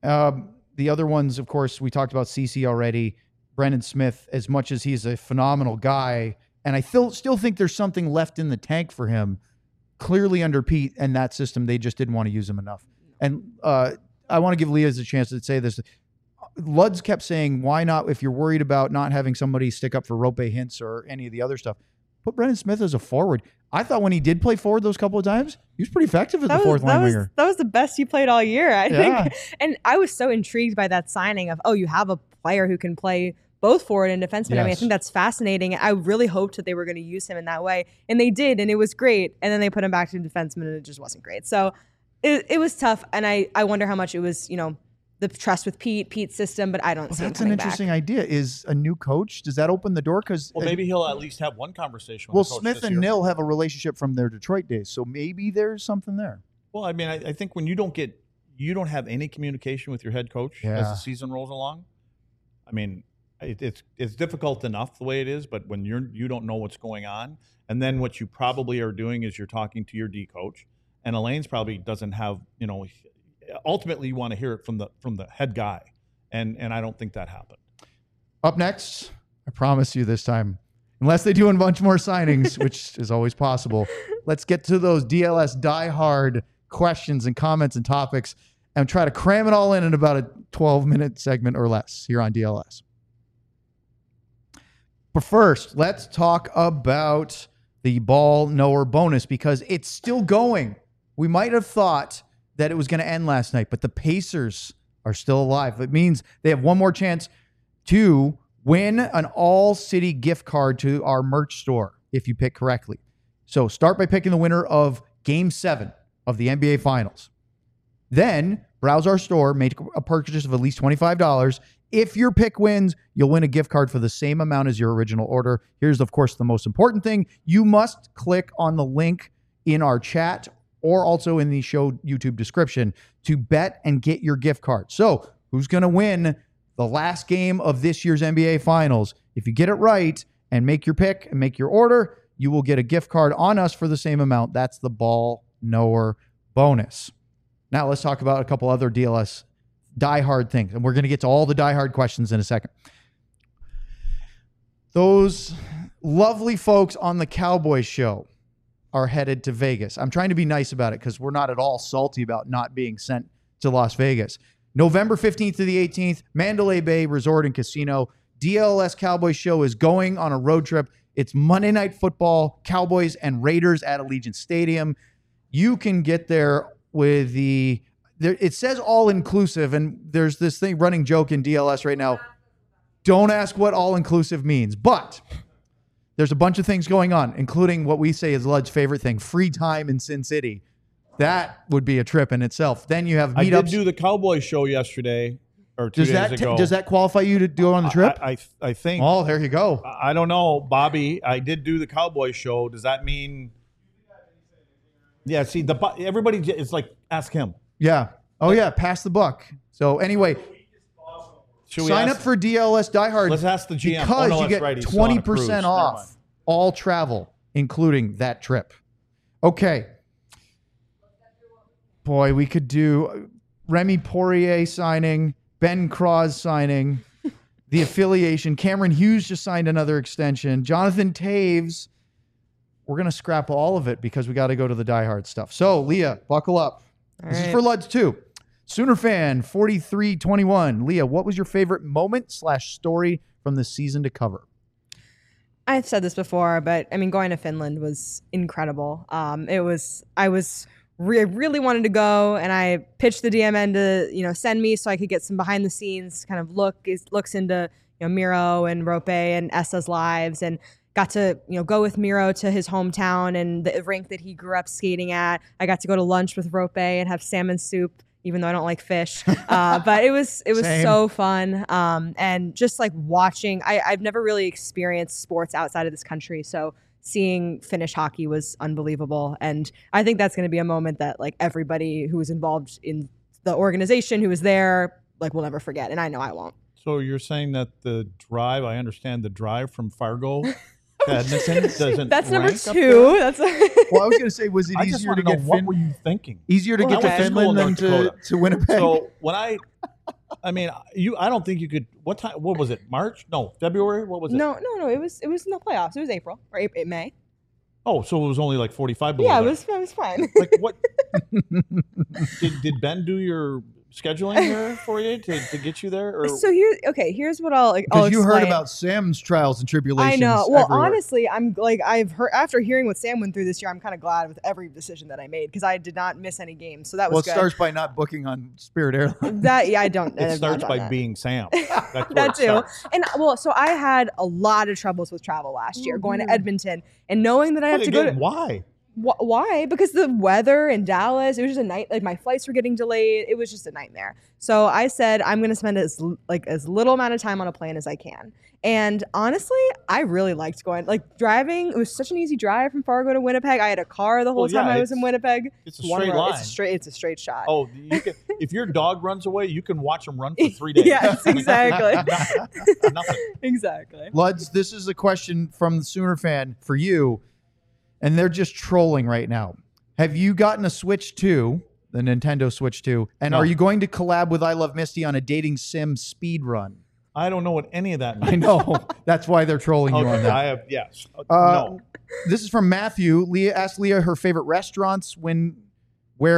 The other ones, of course, we talked about CC already. Brendan Smith, as much as he's a phenomenal guy, and I still think there's something left in the tank for him. Clearly under Pete and that system, they just didn't want to use him enough. And I want to give Leah a chance to say this. Luds kept saying, why not, if you're worried about not having somebody stick up for Rope Hintz or any of the other stuff, put Brendan Smith as a forward. I thought when he did play forward those couple of times, he was pretty effective as the fourth line winger. That was the best he played all year, I think. And I was so intrigued by that signing of, you have a player who can play both forward and defenseman. Yes. I mean, I think that's fascinating. I really hoped that they were going to use him in that way, and they did, and it was great. And then they put him back to defenseman, and it just wasn't great. So it was tough, and I wonder how much it was, the trust with Pete's system, but I don't see him that's an interesting idea. Is a new coach, does that open the door? Because maybe he'll at least have one conversation with the coach. Smith and Nil have a relationship from their Detroit days, so maybe there's something there. Well, I mean, I think when you don't have any communication with your head coach as the season rolls along, I mean, it's difficult enough the way it is, but when you don't know what's going on, and then what you probably are doing is you're talking to your D coach, and Elaine's probably doesn't have, ultimately you want to hear it from the head guy, and I don't think that happened. Up next, I promise you this time, unless they do a bunch more signings, which is always possible, let's get to those DLS diehard questions and comments and topics and try to cram it all in about a 12-minute segment or less here on DLS. But first, let's talk about the ball knower bonus because it's still going. We might have thought that it was going to end last night, but the Pacers are still alive. It means they have one more chance to win an all-city gift card to our merch store if you pick correctly. So start by picking the winner of Game 7 of the NBA Finals. Then browse our store, make a purchase of at least $25. If your pick wins, you'll win a gift card for the same amount as your original order. Here's, of course, the most important thing. You must click on the link in our chat or also in the show YouTube description to bet and get your gift card. So who's going to win the last game of this year's NBA Finals? If you get it right and make your pick and make your order, you will get a gift card on us for the same amount. That's the ball knower bonus. Now let's talk about a couple other DLS diehard things. And we're going to get to all the diehard questions in a second. Those lovely folks on the Cowboys show are headed to Vegas. I'm trying to be nice about it because we're not at all salty about not being sent to Las Vegas. November 15th to the 18th, Mandalay Bay Resort and Casino. DLS Cowboys show is going on a road trip. It's Monday Night Football, Cowboys and Raiders at Allegiant Stadium. You can get there with it says all-inclusive, and there's this running joke in DLS right now. Don't ask what all-inclusive means, but there's a bunch of things going on, including what we say is Lud's favorite thing, free time in Sin City. That would be a trip in itself. Then you have meetups. I did do the Cowboys show yesterday or 2 days ago. Does that qualify you to go on the trip? I think. Oh, there you go. I don't know, Bobby. I did do the Cowboys show. Does that mean? Yeah. See, everybody is like, ask him. Yeah. Oh, yeah. Pass the buck. So anyway, sign up for DLS Diehard. Let's ask the GM. Because you get 20% off all travel, including that trip. Okay. Boy, we could do Remy Poirier signing. Ben Cross signing, the affiliation. Cameron Hughes just signed another extension. Jonathan Taves. We're going to scrap all of it because we got to go to the diehard stuff. So, Leah, buckle up. This is for Luds too. Sooner fan 4321. Leah, what was your favorite moment/story from the season to cover? I've said this before, but I mean, going to Finland was incredible. I really wanted to go, and I pitched the DMN to send me so I could get some behind the scenes kind of looks into Miro and Rope and Essa's lives, and got to go with Miro to his hometown and the rink that he grew up skating at. I got to go to lunch with Rope and have salmon soup, even though I don't like fish. But it was so fun. And just like watching, I've never really experienced sports outside of this country, so seeing Finnish hockey was unbelievable. And I think that's going to be a moment that like everybody who was involved in the organization who was there will never forget. And I know I won't. So you're saying that the drive, I understand the drive from Fargo to Edmonton doesn't That's number rank 2. That's Well, I was going to say, was it I just easier want to to know get what were you thinking? easier to get to I went to school Finland in than North to Winnipeg? So when I don't think you could. What time? What was it? March? No, February. What was it? No. It was in the playoffs. It was April or May. Oh, so it was only like 45 below. Yeah, there. it was fine. Like what? did Ben do your scheduling here for you to get you there? Or? So here's what I'll Because you heard explain. about Sam's trials and tribulations. I know. Well, everywhere. honestly, I've heard after hearing what Sam went through this year, I'm kind of glad with every decision that I made because I did not miss any games. So that was it good. starts by not booking on Spirit Airlines. I don't. It I've starts not by done that. being Sam. That's where That it too. starts. And so I had a lot of troubles with travel last year, going to Edmonton and knowing that I have to go to. Why? Why? Because the weather in Dallas, it was just a night. Like my flights were getting delayed. It was just a nightmare. So I said I'm going to spend as little amount of time on a plane as I can. And honestly, I really liked driving. It was such an easy drive from Fargo to Winnipeg. I had a car the whole time I was in Winnipeg. It's a straight line. It's a straight shot. Oh, if your dog runs away, you can watch him run for 3 days. Yes, exactly. Nothing. Exactly. Luds, this is a question from the Sooner fan for you, and they're just trolling right now. Have you gotten a Switch 2, the Nintendo Switch 2, and No. are you going to collab with I Love Misty on a dating sim speed run? I don't know what any of that means. I know. That's why they're trolling you on Okay, that. I have, yes. No. This is from Matthew. Leah asked Leah her favorite restaurants what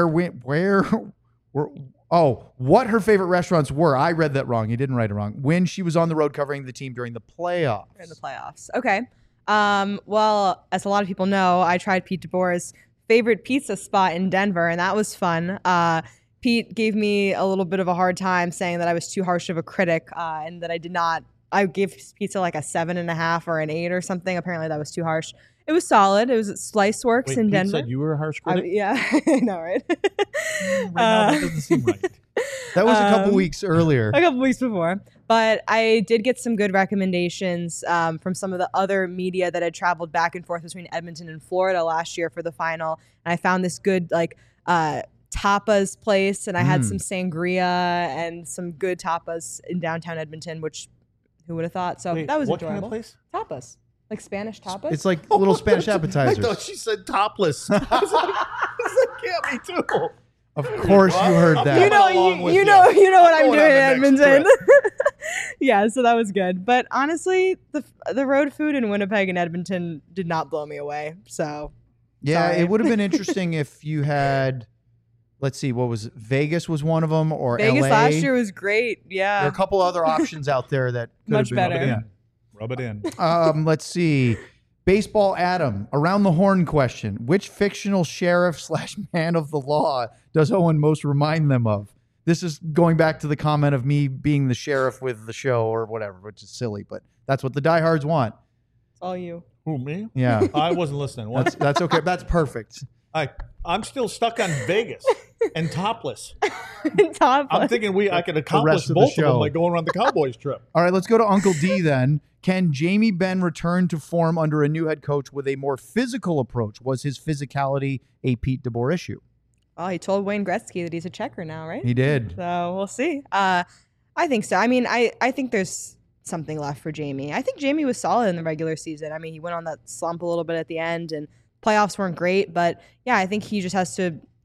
her favorite restaurants were. I read that wrong. You didn't write it wrong. When she was on the road covering the team during the playoffs. In the playoffs. Okay. Well, as a lot of people know, I tried Pete DeBoer's favorite pizza spot in Denver, and that was fun. Pete gave me a little bit of a hard time saying that I was too harsh of a critic and that I gave pizza like a 7.5 or an 8 or something. Apparently that was too harsh. It was solid. It was at Slice Works in Pete Denver. said you were a harsh critic? Yeah, I know, right? Right now, that doesn't seem right. That was a couple weeks earlier. A couple weeks before. But I did get some good recommendations from some of the other media that had traveled back and forth between Edmonton and Florida last year for the final. And I found this good tapas place, and I had some sangria and some good tapas in downtown Edmonton, which who would have thought? So Wait, that was what enjoyable. kind of place? Tapas. Like Spanish tapas? It's like little Spanish appetizers. I thought she said topless. I was like, that can't be too. Of course you heard that. You know, along with you you. know what I'm I'm going doing in on the next Edmonton. Yeah, so that was good. But honestly, the road food in Winnipeg and Edmonton did not blow me away. So Yeah, sorry. it would have been interesting if you had, let's see, what was it? Vegas was one of them, or Vegas LA. last year was great. There are Yeah, a couple other options out there that could Much have been better. Yeah. Rub it in. Let's see. Baseball Adam, around the horn question. Which fictional sheriff / man of the law does Owen most remind them of? This is going back to the comment of me being the sheriff with the show or whatever, which is silly, but that's what the diehards want. it's all you. Who, me? Yeah, I wasn't listening. What? that's okay. That's perfect. I'm still stuck on Vegas and topless. Top. I'm thinking I could rest accomplish of the both of show. them by going on the Cowboys trip. All right, let's go to Uncle D then. Can Jamie Benn return to form under a new head coach with a more physical approach? Was his physicality a Pete DeBoer issue? Oh, he told Wayne Gretzky that he's a checker now, right? He did. So we'll see. I think so. I mean, I think there's something left for Jamie. I think Jamie was solid in the regular season. I mean, he went on that slump a little bit at the end, and playoffs weren't great. But yeah, I think he just has to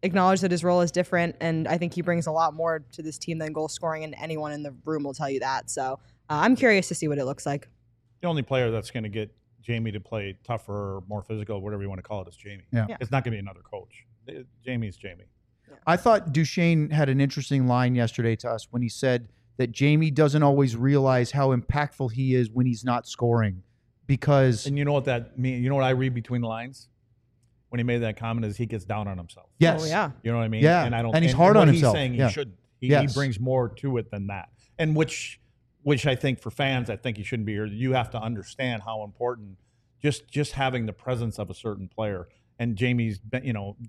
acknowledge that his role is different, and I think he brings a lot more to this team than goal scoring, and anyone in the room will tell you that. So I'm curious to see what it looks like. The only player that's going to get Jamie to play tougher, more physical, whatever you want to call it, is Jamie. Yeah. It's not going to be another coach. Jamie's Jamie. I thought Duchesne had an interesting line yesterday to us when he said that Jamie doesn't always realize how impactful he is when he's not scoring, because And you know what that means? You know what I read between the lines? When he made that comment is he gets down on himself. yes, Oh, yeah. You know what I mean? Yeah. And I don't. And he's hard on what himself. He's saying Yeah. he shouldn't. He Yes. brings more to it than that. And which I think for fans, I think he shouldn't be here. You have to understand how important just having the presence of a certain player. And Jamie's been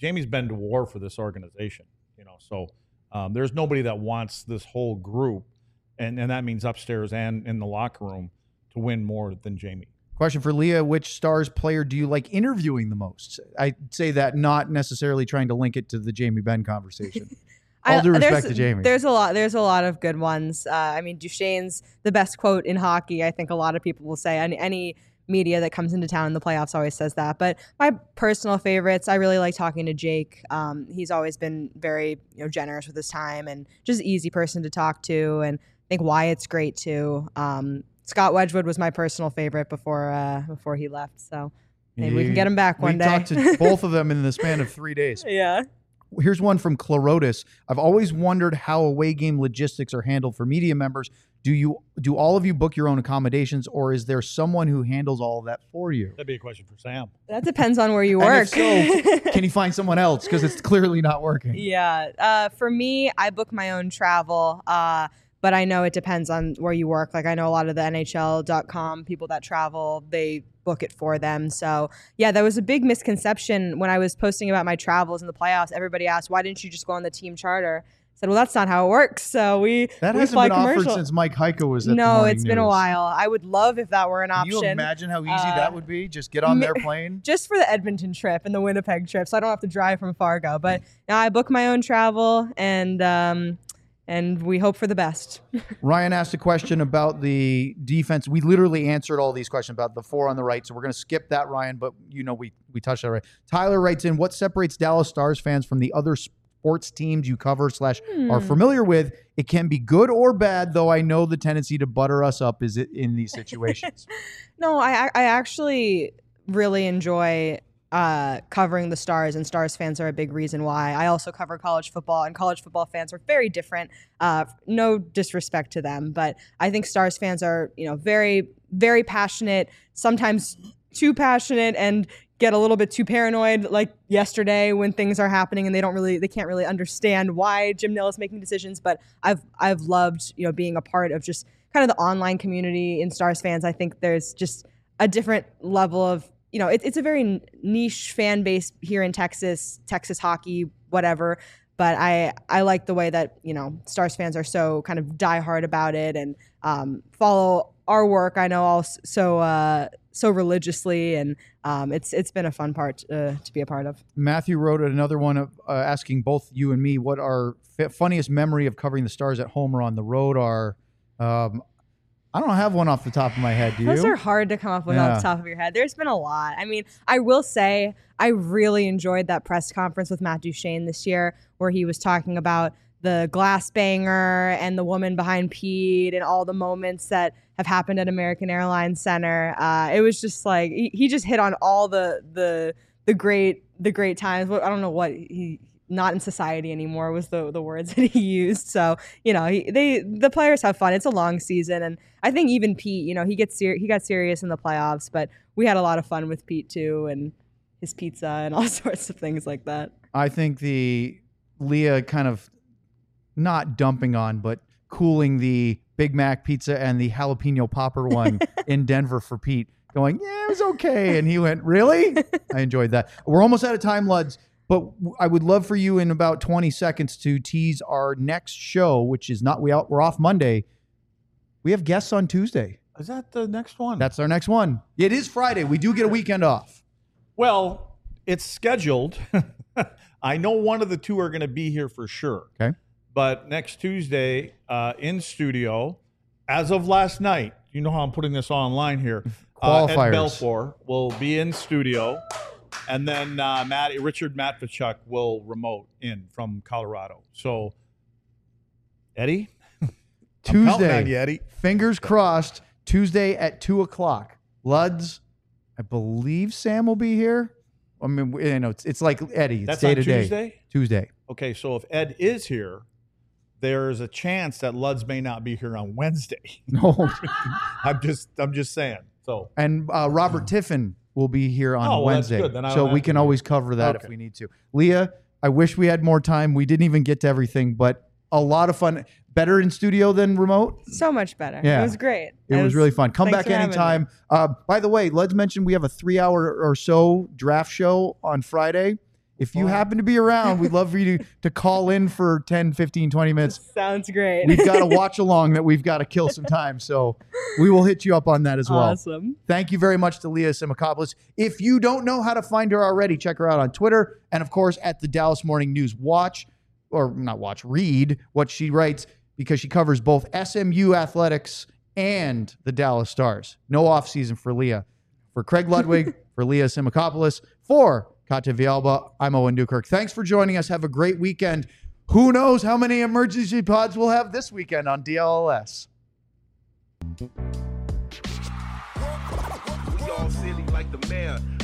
to war for this organization. So there's nobody that wants this whole group, and that means upstairs and in the locker room, to win more than Jamie. Question for Leah: which Stars player do you like interviewing the most? I say that not necessarily trying to link it to the Jamie Benn conversation. All due respect to Jamie. There's a lot of good ones. I mean, Duchesne's the best quote in hockey. I think a lot of people will say. Any media that comes into town in the playoffs always says that. But my personal favorites, I really like talking to Jake. He's always been very generous with his time and just an easy person to talk to. And I think Wyatt's great too. Scott Wedgwood was my personal favorite before he left. So maybe we can get him back one day. We talked to both of them in the span of 3 days. Yeah. Here's one from Clorotis. I've always wondered how away game logistics are handled for media members. Do all of you book your own accommodations, or is there someone who handles all of that for you? That'd be a question for Sam. That depends on where you And work. if so, can you find someone else? Because it's clearly not working. Yeah. For me, I book my own travel. But I know it depends on where you work. Like I know a lot of the NHL.com people that travel, they book it for them. So yeah, that was a big misconception when I was posting about my travels in the playoffs. Everybody asked, why didn't you just go on the team charter? I said, well, that's not how it works. So we That fly hasn't been offered commercial. since Mike Heiko was at the No, Morning it's been a News. while. I would love if that were an Can option. you imagine how easy that would be? Just get on their plane. Just for the Edmonton trip and the Winnipeg trip, so I don't have to drive from Fargo. But now I book my own travel, and we hope for the best. Ryan asked a question about the defense. We literally answered all these questions about the 4 on the right, so we're going to skip that, Ryan, but we touched that right. Tyler writes in, what separates Dallas Stars fans from the other sports teams you cover / are familiar with? It can be good or bad, though I know the tendency to butter us up is in these situations. No, I actually really enjoy covering the Stars, and Stars fans are a big reason why. I also cover college football, and college football fans are very different. No disrespect to them, but I think Stars fans are, very, very passionate, sometimes too passionate, and get a little bit too paranoid, like yesterday when things are happening and they can't really understand why Jim Nill is making decisions. But I've loved, being a part of just kind of the online community in Stars fans. I think there's just a different level of, it's a very niche fan base here in Texas hockey, whatever. But I like the way that, Stars fans are so kind of diehard about it and follow our work. I know all so religiously, and it's been a fun part to be a part of. Matthew wrote another one asking both you and me what our funniest memory of covering the Stars at home or on the road are. I don't have one off the top of my head. Do you? Those are hard to come up with off the top of your head. There's been a lot. I mean, I will say I really enjoyed that press conference with Matt Duchesne this year where he was talking about the glass banger and the woman behind Pete and all the moments that have happened at American Airlines Center. It was just like he just hit on all the great times. I don't know what he not in society anymore was the words that he used. So the players have fun. It's a long season, and I think even Pete, he got serious in the playoffs, but we had a lot of fun with Pete too, and his pizza and all sorts of things like that. I think the Leah kind of not dumping on, but cooling the Big Mac pizza and the jalapeno popper one in Denver for Pete, going, yeah, it was okay. And he went, really? I enjoyed that. We're almost out of time, Luds, but I would love for you in about 20 seconds to tease our next show, which is we're off Monday. We have guests on Tuesday. Is that the next one? That's our next one. It is Friday. We do get a weekend off. Well, it's scheduled. I know one of the two are going to be here for sure. Okay. But next Tuesday, in studio, as of last night, you know how I'm putting this online here. Qualifiers. Ed Belfour will be in studio. And then Richard Matvechuk will remote in from Colorado. So, Eddie? I'm counting on you, Eddie. Fingers crossed, Tuesday at 2:00. Luds, I believe Sam will be here. I mean, it's like Eddie. It's That's day on to day. Tuesday? Tuesday. Okay, so if Ed is here, there's a chance that Luds may not be here on Wednesday. No. I'm just saying. So And Robert Tiffin will be here on Wednesday. That's good. Then I so don't we have can to always cover that Okay. if we need to. Leah, I wish we had more time. We didn't even get to everything, but a lot of fun. Better in studio than remote? So much better. Yeah. It was great. It was really fun. Come thanks back for having anytime. By the way, let's mention we have a 3-hour or so draft show on Friday. If you happen to be around, we'd love for you to call in for 10, 15, 20 minutes. Sounds great. We've got a watch along that we've got to kill some time. So we will hit you up on that as well. Awesome. Thank you very much to Leah Simakopoulos. If you don't know how to find her already, check her out on Twitter and, of course, at the Dallas Morning News. Read what she writes because she covers both SMU athletics and the Dallas Stars. No offseason for Leah. For Craig Ludwig, for Leah Simakopoulos, for Katya Villalba, I'm Owen Newkirk. Thanks for joining us. Have a great weekend. Who knows how many emergency pods we'll have this weekend on DLLS. We all silly like the mayor.